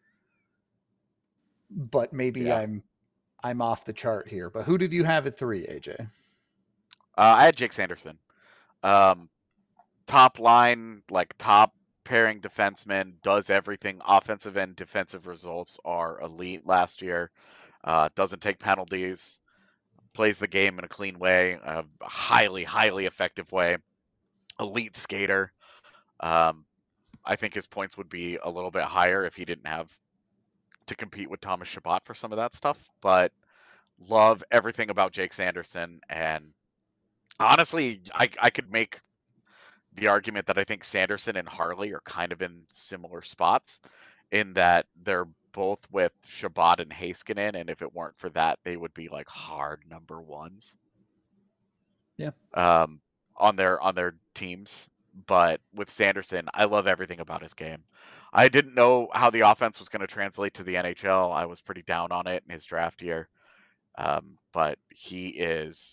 but maybe Yeah. I'm I'm off the chart here. But who did you have at three, A J? Uh, I had Jake Sanderson. Um, top line, like top pairing defenseman, does everything. Offensive and defensive results are elite last year. Uh, doesn't take penalties. Plays the game in a clean way, a highly, highly effective way. Elite skater. Um, I think his points would be a little bit higher if he didn't have to compete with Thomas Chabot for some of that stuff. But love everything about Jake Sanderson. And honestly, I, I could make the argument that I think Sanderson and Harley are kind of in similar spots in that they're both with Chabot and Heiskanen, and if it weren't for that, they would be like hard number ones. Yeah. Um, on their on their teams. But with Sanderson, I love everything about his game. I didn't know how the offense was going to translate to the N H L. I was pretty down on it in his draft year. Um, but he is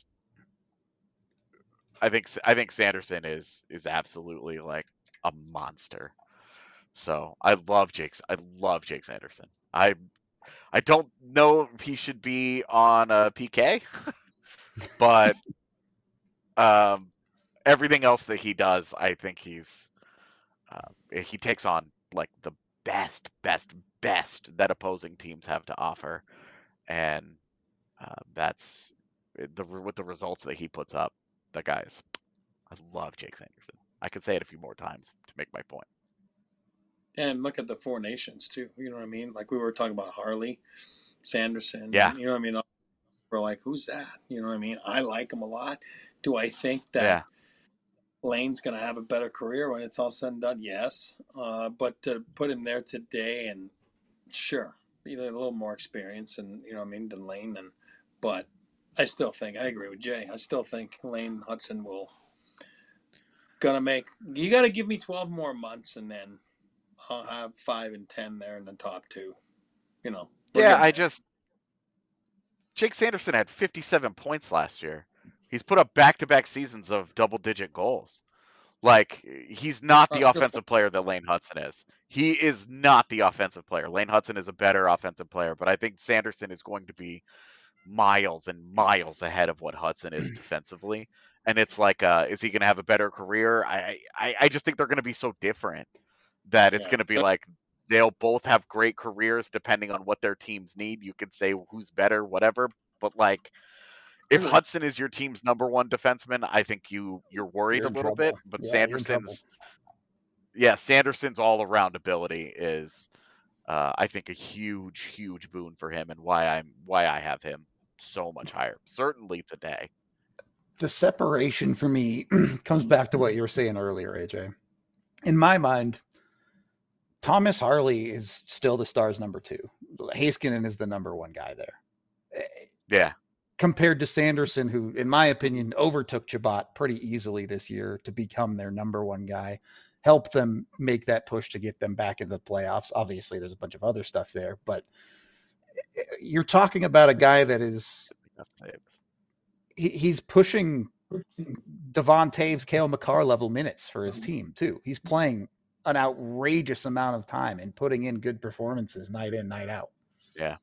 I think I think Sanderson is is absolutely like a monster. So I love Jake's. I love Jake Sanderson. I I don't know if he should be on a P K, but um, everything else that he does, I think he's uh, he takes on like the best, best, best that opposing teams have to offer, and uh, that's the with the results that he puts up. The guys, I love Jake Sanderson. I could say it a few more times to make my point. And look at the Four Nations too. You know what I mean? Like we were talking about Harley, Sanderson. Yeah. You know what I mean? We're like, who's that? You know what I mean? I like him a lot. Do I think that Yeah. Lane's going to have a better career when it's all said and done? Yes. Uh, but to put him there today, and sure, either a little more experience, and you know what I mean, than Lane. And but I still think I agree with Jay. I still think Lane Hudson will gonna make. You got to give me twelve more months, and then I'll have five and ten there in the top two. You know. Yeah, I just Jake Sanderson had fifty-seven points last year. He's put up back-to-back seasons of double-digit goals. Like, he's not the That's offensive player that Lane Hudson is. He is not the offensive player. Lane Hudson is a better offensive player, but I think Sanderson is going to be miles and miles ahead of what Hudson is defensively. And it's like, uh, is he going to have a better career? I, I, I just think they're going to be so different that it's Yeah. going to be like they'll both have great careers depending on what their teams need. You could say who's better, whatever, but like if Really? Hudson is your team's number one defenseman, I think you you're worried You're a in little trouble. bit. But Yeah, you're in trouble. Sanderson's, yeah, Sanderson's all around ability is, uh, I think, a huge, huge boon for him, and why I'm why I have him so much higher. Certainly today. The separation for me comes back to what you were saying earlier, A J. In my mind, Thomas Harley is still the Stars' number two. Heiskanen is the number one guy there. Yeah. Compared to Sanderson, who, in my opinion, overtook Chabot pretty easily this year to become their number one guy, help them make that push to get them back into the playoffs. Obviously, there's a bunch of other stuff there, but you're talking about a guy that is he, he's pushing Devon Taves, Cale Makar level minutes for his team too. He's playing an outrageous amount of time and putting in good performances night in, night out. Yeah.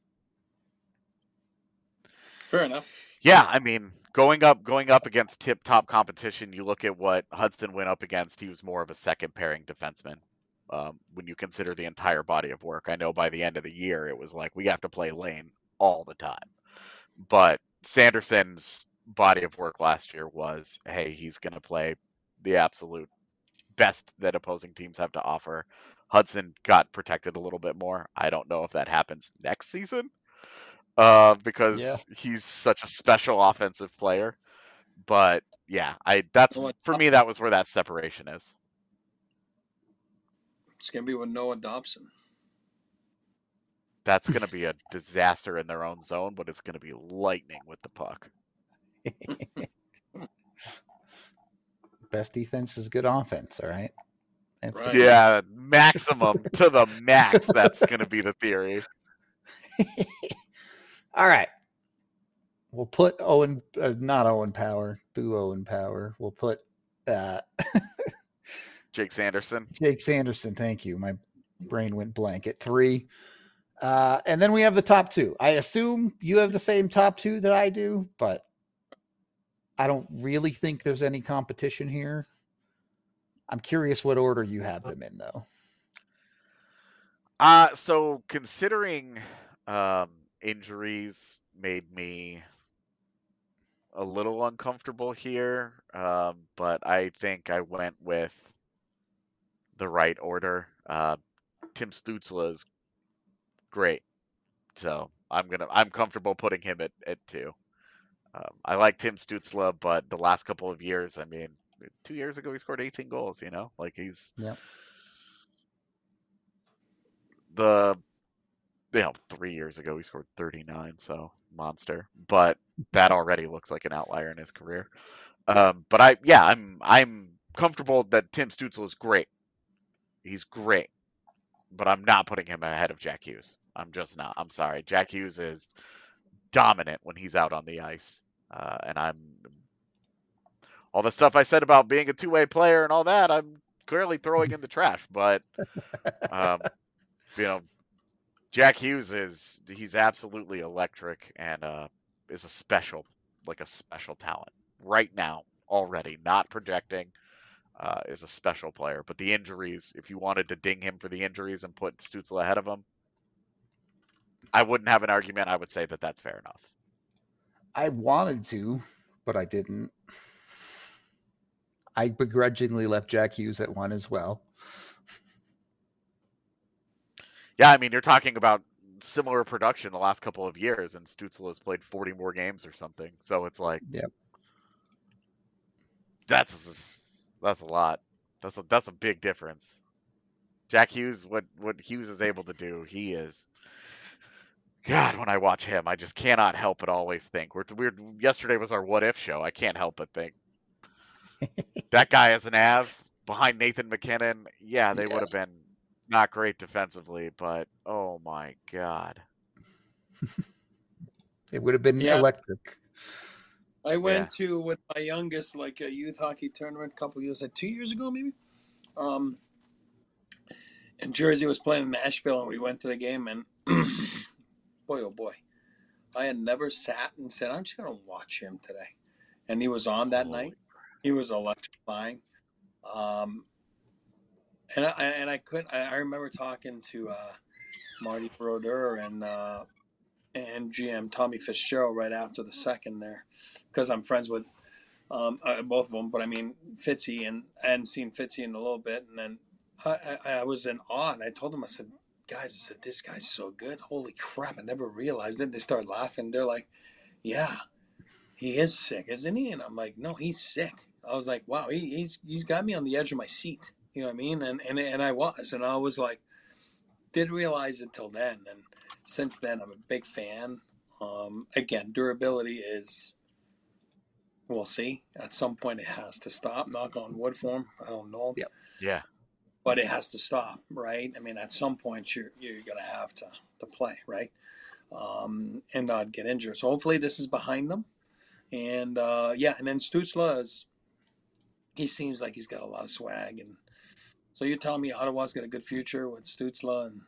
Fair enough. Yeah, I mean, going up going up against tip top competition, you look at what Hudson went up against, he was more of a second pairing defenseman. Um, when you consider the entire body of work. I know by the end of the year it was like we have to play lane all the time. But Sanderson's body of work last year was, hey, he's going to play the absolute best that opposing teams have to offer. Hudson got protected a little bit more. I don't know if that happens next season uh, because Yeah. he's such a special offensive player. But yeah, I that's Noah for me that was where that separation is. It's gonna be with Noah Dobson. That's going to be a disaster in their own zone, but it's going to be lightning with the puck. Best defense is good offense, all right? That's Right. the- Yeah, maximum to the max. That's going to be the theory. All right. We'll put Owen, uh, not Owen Power, boo Owen Power. We'll put uh, Jake Sanderson. Jake Sanderson. Thank you. My brain went blank at three. Uh, and then we have the top two. I assume you have the same top two that I do, but I don't really think there's any competition here. I'm curious what order you have them in, though. Uh, so considering um, injuries made me a little uncomfortable here, um, but I think I went with the right order. Uh, Tim Stützle is great, so I'm gonna I'm comfortable putting him at, at two. Um, I like Tim Stützle, but the last couple of years, I mean, two years ago he scored eighteen goals. You know, like he's Yep. the you know three years ago he scored thirty-nine, so monster. But that already looks like an outlier in his career. Um, but I yeah I'm I'm comfortable that Tim Stützle is great. He's great, but I'm not putting him ahead of Jack Hughes. I'm just not. I'm sorry. Jack Hughes is dominant when he's out on the ice. Uh, and I'm all the stuff I said about being a two-way player and all that, I'm clearly throwing in the trash. But, um, you know, Jack Hughes is, he's absolutely electric and uh, is a special, like a special talent right now already, not projecting. Uh, is a special player, but the injuries, if you wanted to ding him for the injuries and put Stützle ahead of him, I wouldn't have an argument. I would say that that's fair enough. I wanted to, but I didn't. I begrudgingly left Jack Hughes at one as well. Yeah, I mean, you're talking about similar production the last couple of years, and Stützle has played forty more games or something. So it's like, yep. that's that's a lot. That's a that's a big difference. Jack Hughes, what what Hughes is able to do, he is. God, when I watch him, I just cannot help but always think. We're weird. Yesterday was our what if show. I can't help but think that guy as an Av behind Nathan McKinnon. Yeah, they yeah. would have been not great defensively, but oh my God, it would have been yeah. electric. I went yeah. to with my youngest like a youth hockey tournament a couple years, like two years ago maybe. Um, and Jersey was playing in Nashville, and we went to the game, and boy, oh boy, I had never sat and said, I'm just going to watch him today. And he was on that Holy night. Crap. He was electrifying. Um, and I and I couldn't. I, I remember talking to uh, Marty Brodeur and uh, and G M Tommy Fitzgerald right after the second there, because I'm friends with um, uh, both of them. But I mean Fitzy, and I hadn't seen Fitzy in a little bit, and then I, I, I was in awe, and I told them, I said, guys, I said, this guy's so good. Holy crap! I never realized it. They started laughing. They're like, yeah, he is sick, isn't he? And I'm like, no, he's sick. I was like, wow, he, he's he's got me on the edge of my seat. You know what I mean? And and and I was, and I was like, didn't realize it till then, and since then I'm a big fan. Um, again, durability is, we'll see. At some point, it has to stop. Knock on wood for him. I don't know. Yep. Yeah. But it has to stop, right? I mean, at some point, you're you're gonna have to to play, right? Um, and not get injured. So hopefully, this is behind them. And uh, yeah, and then Stützle is. He seems like he's got a lot of swag, and so you're telling me Ottawa's got a good future with Stützle and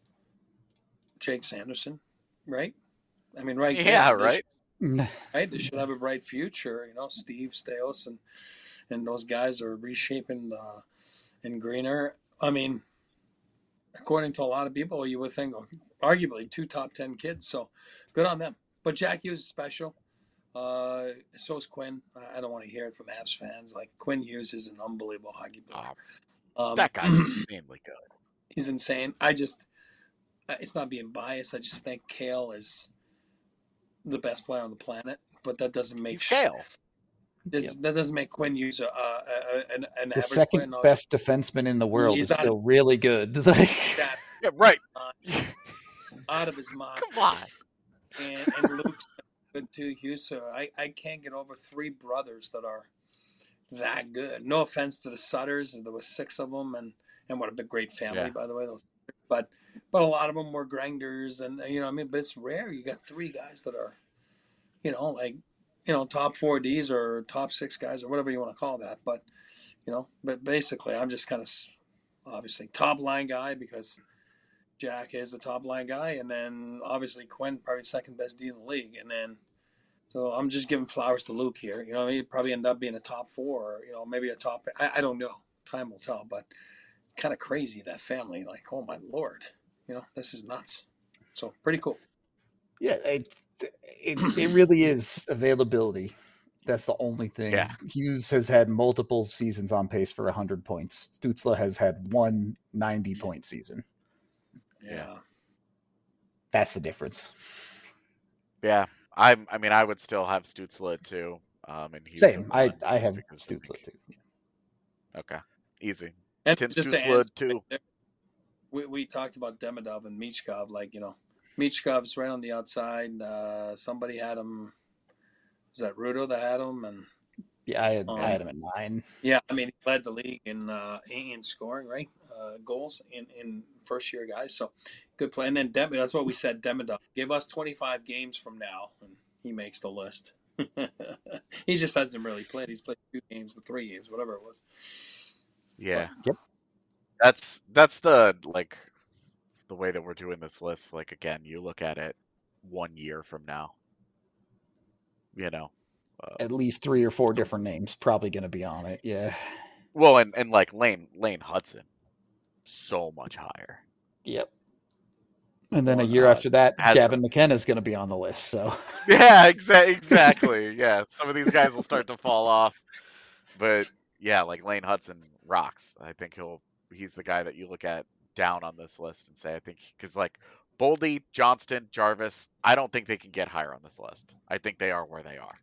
Jake Sanderson, right? I mean, right? Yeah, there, they right. should, right. They should have a bright future. You know, Steve Staios and and those guys are reshaping uh, in Greener. I mean, according to a lot of people, you would think arguably two top ten kids. So good on them. But Jack Hughes is special. Uh, so is Quinn. I don't want to hear it from Avs fans. Like, Quinn Hughes is an unbelievable hockey player. Oh, Um, that guy's insanely good. He's insane. I just, it's not being biased. I just think Kale is the best player on the planet. But that doesn't make He's Kale. This Yep. that doesn't make Quinn Hughes a, a, a, an, an The average second player. No, best defenseman in the world He's is not- still really good. Like, that Yeah, right. uh, out of his mind. Come on. And, and Luke's good too, Hughes. So I, I can't get over three brothers that are that good. No offense to the Sutters, there was six of them, and and what a big great family, Yeah. by the way. Those, but but a lot of them were grinders, and you know, I mean, but it's rare. You got three guys that are, you know, like you know, top four Ds or top six guys or whatever you want to call that. But you know, but basically, I'm just kind of obviously top line guy because Jack is the top line guy, and then obviously Quinn probably second best D in the league, and then so I'm just giving flowers to Luke here. You know, he'd probably end up being a top four, or, you know, maybe a top. I, I don't know. Time will tell, but it's kind of crazy that family. Like, oh my lord, you know, this is nuts. So pretty cool. yeah, it, it it really is availability. That's the only thing. Yeah. Hughes has had multiple seasons on pace for one hundred points. Stützle has had one ninety-point season. Yeah. That's the difference. Yeah. I'm, I mean, I would still have Stützle too. Um, and he's Same. I, one, I have because I Stützle think- too. Okay. Easy. And Tim just to Stützle answer, too. we we talked about Demidov and Michkov. Like, you know, Michkov's right on the outside. Uh, somebody had him. Was that Rudo that had him? And Yeah, I had, Um, I had him at nine. yeah, I mean, he led the league in uh, in scoring, right? Uh, goals in, in first year guys. So good play. And then Dem- that's what we said. Demidov, give us twenty-five games from now, and he makes the list. He just hasn't really played. He's played two games, but three games, whatever it was. Yeah. Yep. That's that's the like the way that we're doing this list. Like again, you look at it one year from now. You know. Uh, At least three or four different names probably going to be on it. Yeah. well, and, and like Lane Lane Hudson, so much higher. Yep. And then a Well, year uh, after that, has- Gavin McKenna is going to be on the list. So Yeah, exa- exactly. Yeah, some of these guys will start to fall off, but yeah, like Lane Hudson rocks. I think he'll he's the guy that you look at down on this list and say I think because like Boldy, Johnston, Jarvis, I don't think they can get higher on this list. I think they are where they are.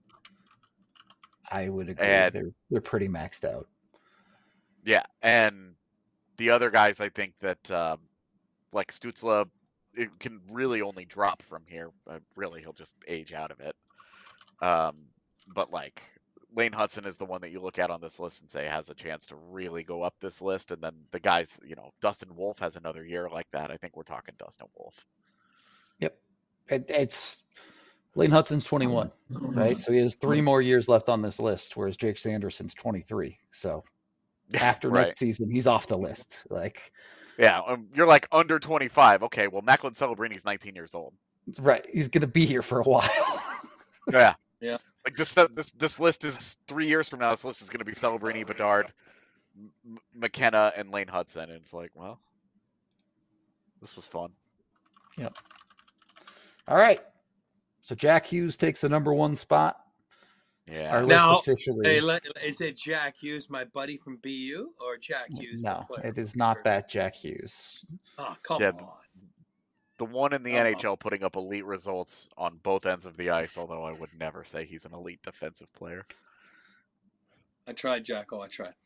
I would agree. And- they're they're pretty maxed out. Yeah, and the other guys, I think that um, like Stützle, it can really only drop from here. Uh, really, he'll just age out of it. Um, but like Lane Hudson is the one that you look at on this list and say has a chance to really go up this list. And then the guys, you know, Dustin Wolf has another year like that. I think we're talking Dustin Wolf. Yep. It, it's Lane Hudson's twenty-one, right? So he has three more years left on this list, whereas Jake Sanderson's twenty-three. So after Right. next season, he's off the list. Like, Yeah, um, you're like under twenty-five. Okay, well, Macklin Celebrini's nineteen years old. right. He's going to be here for a while. Yeah. Yeah. Like this, uh, this, this list is three years from now. This list is going to be Celebrini, Bedard, M- McKenna, and Lane Hudson. And it's like, well, this was fun. All right. So Jack Hughes takes the number one spot. Yeah. Our list Now, officially. Hey, let- is it Jack Hughes, my buddy from B U, or Jack Hughes? the No, player it is from not Jersey? that Jack Hughes. Oh, come Yeah, on. The one in the Uh-oh. N H L putting up elite results on both ends of the ice, although I would never say he's an elite defensive player. I tried, Jacko. I tried.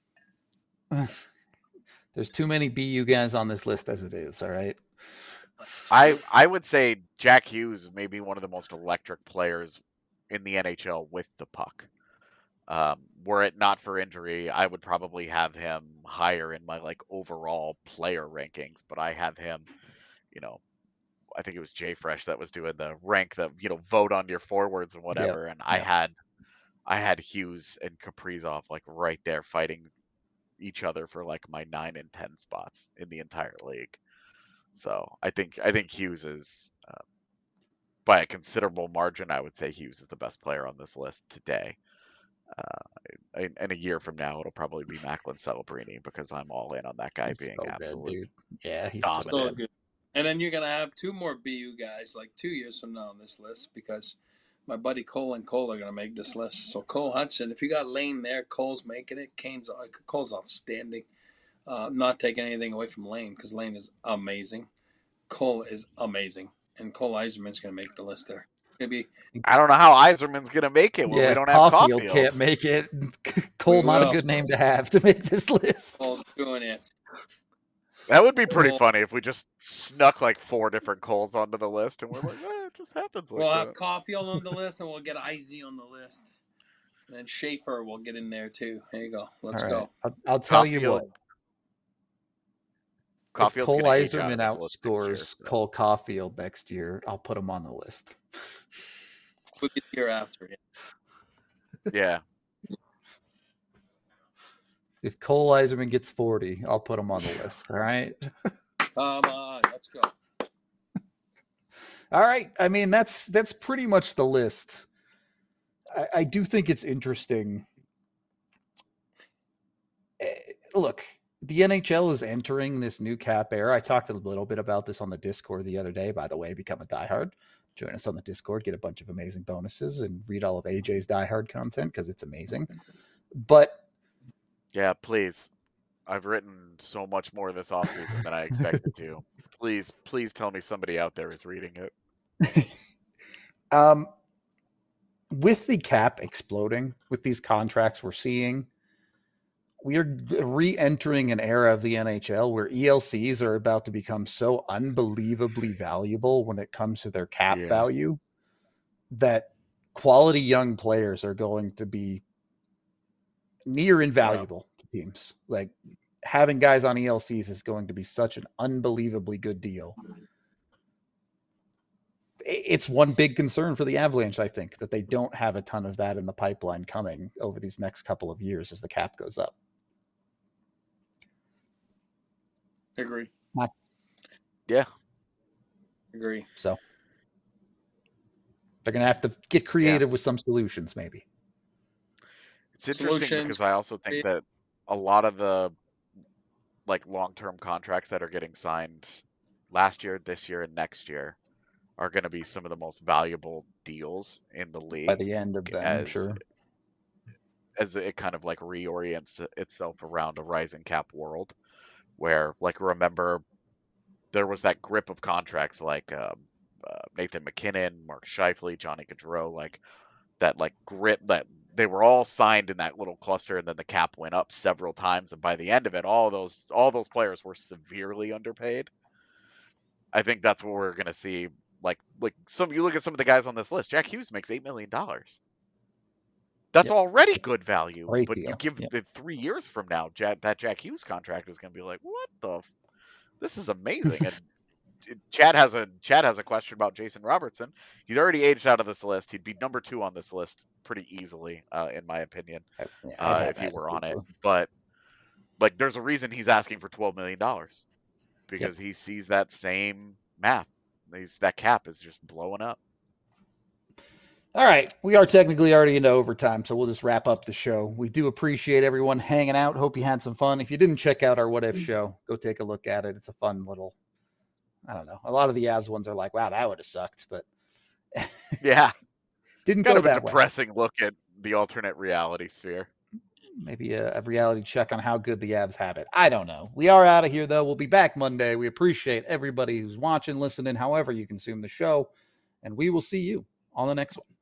There's too many B U guys on this list as it is. All right. I I would say Jack Hughes may be one of the most electric players in the N H L with the puck. Um, were it not for injury, I would probably have him higher in my like overall player rankings, but I have him, you know, I think it was Jay Fresh that was doing the rank the, you know, vote on your forwards and whatever. And I yep. had I had Hughes and Kaprizov like right there fighting each other for like my nine and ten spots in the entire league. So I think I think Hughes is uh, by a considerable margin. I would say Hughes is the best player on this list today. Uh, in, in a year from now, it'll probably be Macklin Celebrini because I'm all in on that guy He's being so good, absolute dude. Yeah, he's dominant. so So good. And then you're going to have two more B U guys like two years from now on this list because my buddy Cole and Cole are going to make this list. So Cole Hudson, if you got Lane there, Cole's making it. Kane's Cole's outstanding. Uh, not taking anything away from Lane because Lane is amazing. Cole is amazing. And Cole Eiserman's going to make the list there. Maybe I don't know how Eiserman's going to make it when yeah, we don't Caulfield have Caulfield. can't make it. Cole, We not a will. good name to have to make this list. Cole's doing it. That would be pretty Well- funny if we just snuck like four different Coles onto the list and we're like, eh, it just happens like We'll that. have Caulfield on the list and we'll get Izzy on the list. And then Schaefer will get in there too. There you go. Let's All right. go. I'll, I'll tell you Caulfield- what. If Caulfield's Cole gonna age out Eiserman of this list next year, outscores so. Cole Caulfield next year, I'll put him on the list. We'll get the year after. Yeah. Yeah. If Cole Eiserman gets forty, I'll put him on the list. All right. Come on. Let's go. All right. I mean, that's that's pretty much the list. I, I do think it's interesting. Eh, Look, the N H L is entering this new cap era. I talked a little bit about this on the Discord the other day, by the way. Become a diehard. Join us on the Discord, get a bunch of amazing bonuses, and read all of A J's diehard content because it's amazing. But Yeah, please. I've written so much more this offseason than I expected to. Please, please tell me somebody out there is reading it. um, with the cap exploding, with these contracts we're seeing, we are re-entering an era of the N H L where E L Cs are about to become so unbelievably valuable when it comes to their cap Yeah. value that quality young players are going to be near invaluable to teams. Like having guys on E L Cs is going to be such an unbelievably good deal. It's one big concern for the Avalanche, I think, that they don't have a ton of that in the pipeline coming over these next couple of years as the cap goes up. Agree. Yeah. Agree. So they're going to have to get creative with some solutions, maybe. It's interesting Solutions. because I also think that a lot of the like long-term contracts that are getting signed last year, this year, and next year are going to be some of the most valuable deals in the league. By the end of them, as, sure. As it kind of like reorients itself around a rising cap world, where like remember there was that grip of contracts like um, uh, Nathan McKinnon, Mark Scheifele, Johnny Gaudreau, like that like grip that they were all signed in that little cluster, and then the cap went up several times, and by the end of it, all those all those players were severely underpaid. I think that's what we're gonna see. Like like some you look at some of the guys on this list. Jack Hughes makes eight million dollars. That's Yep. already good value. Great but deal. you give Yep. it three years from now, Jack, that Jack Hughes contract is gonna be like, what the? F- this is amazing. And Chad has a Chad has a question about Jason Robertson. He's already aged out of this list. He'd be number two on this list pretty easily, uh, in my opinion, I- yeah, I'd uh, have if he that were on it. too. But like, there's a reason he's asking for twelve million dollars because he sees that same math. He's, that cap is just blowing up. All right. We are technically already into overtime, so we'll just wrap up the show. We do appreciate everyone hanging out. Hope you had some fun. If you didn't check out our What If show, go take a look at it. It's a fun little I don't know. A lot of the Avs ones are like, wow, that would have sucked, but Yeah. didn't Kind go of a that way. depressing look at the alternate reality sphere. Maybe a, a reality check on how good the Avs have it. I don't know. We are out of here, though. We'll be back Monday. We appreciate everybody who's watching, listening, however you consume the show, and we will see you on the next one.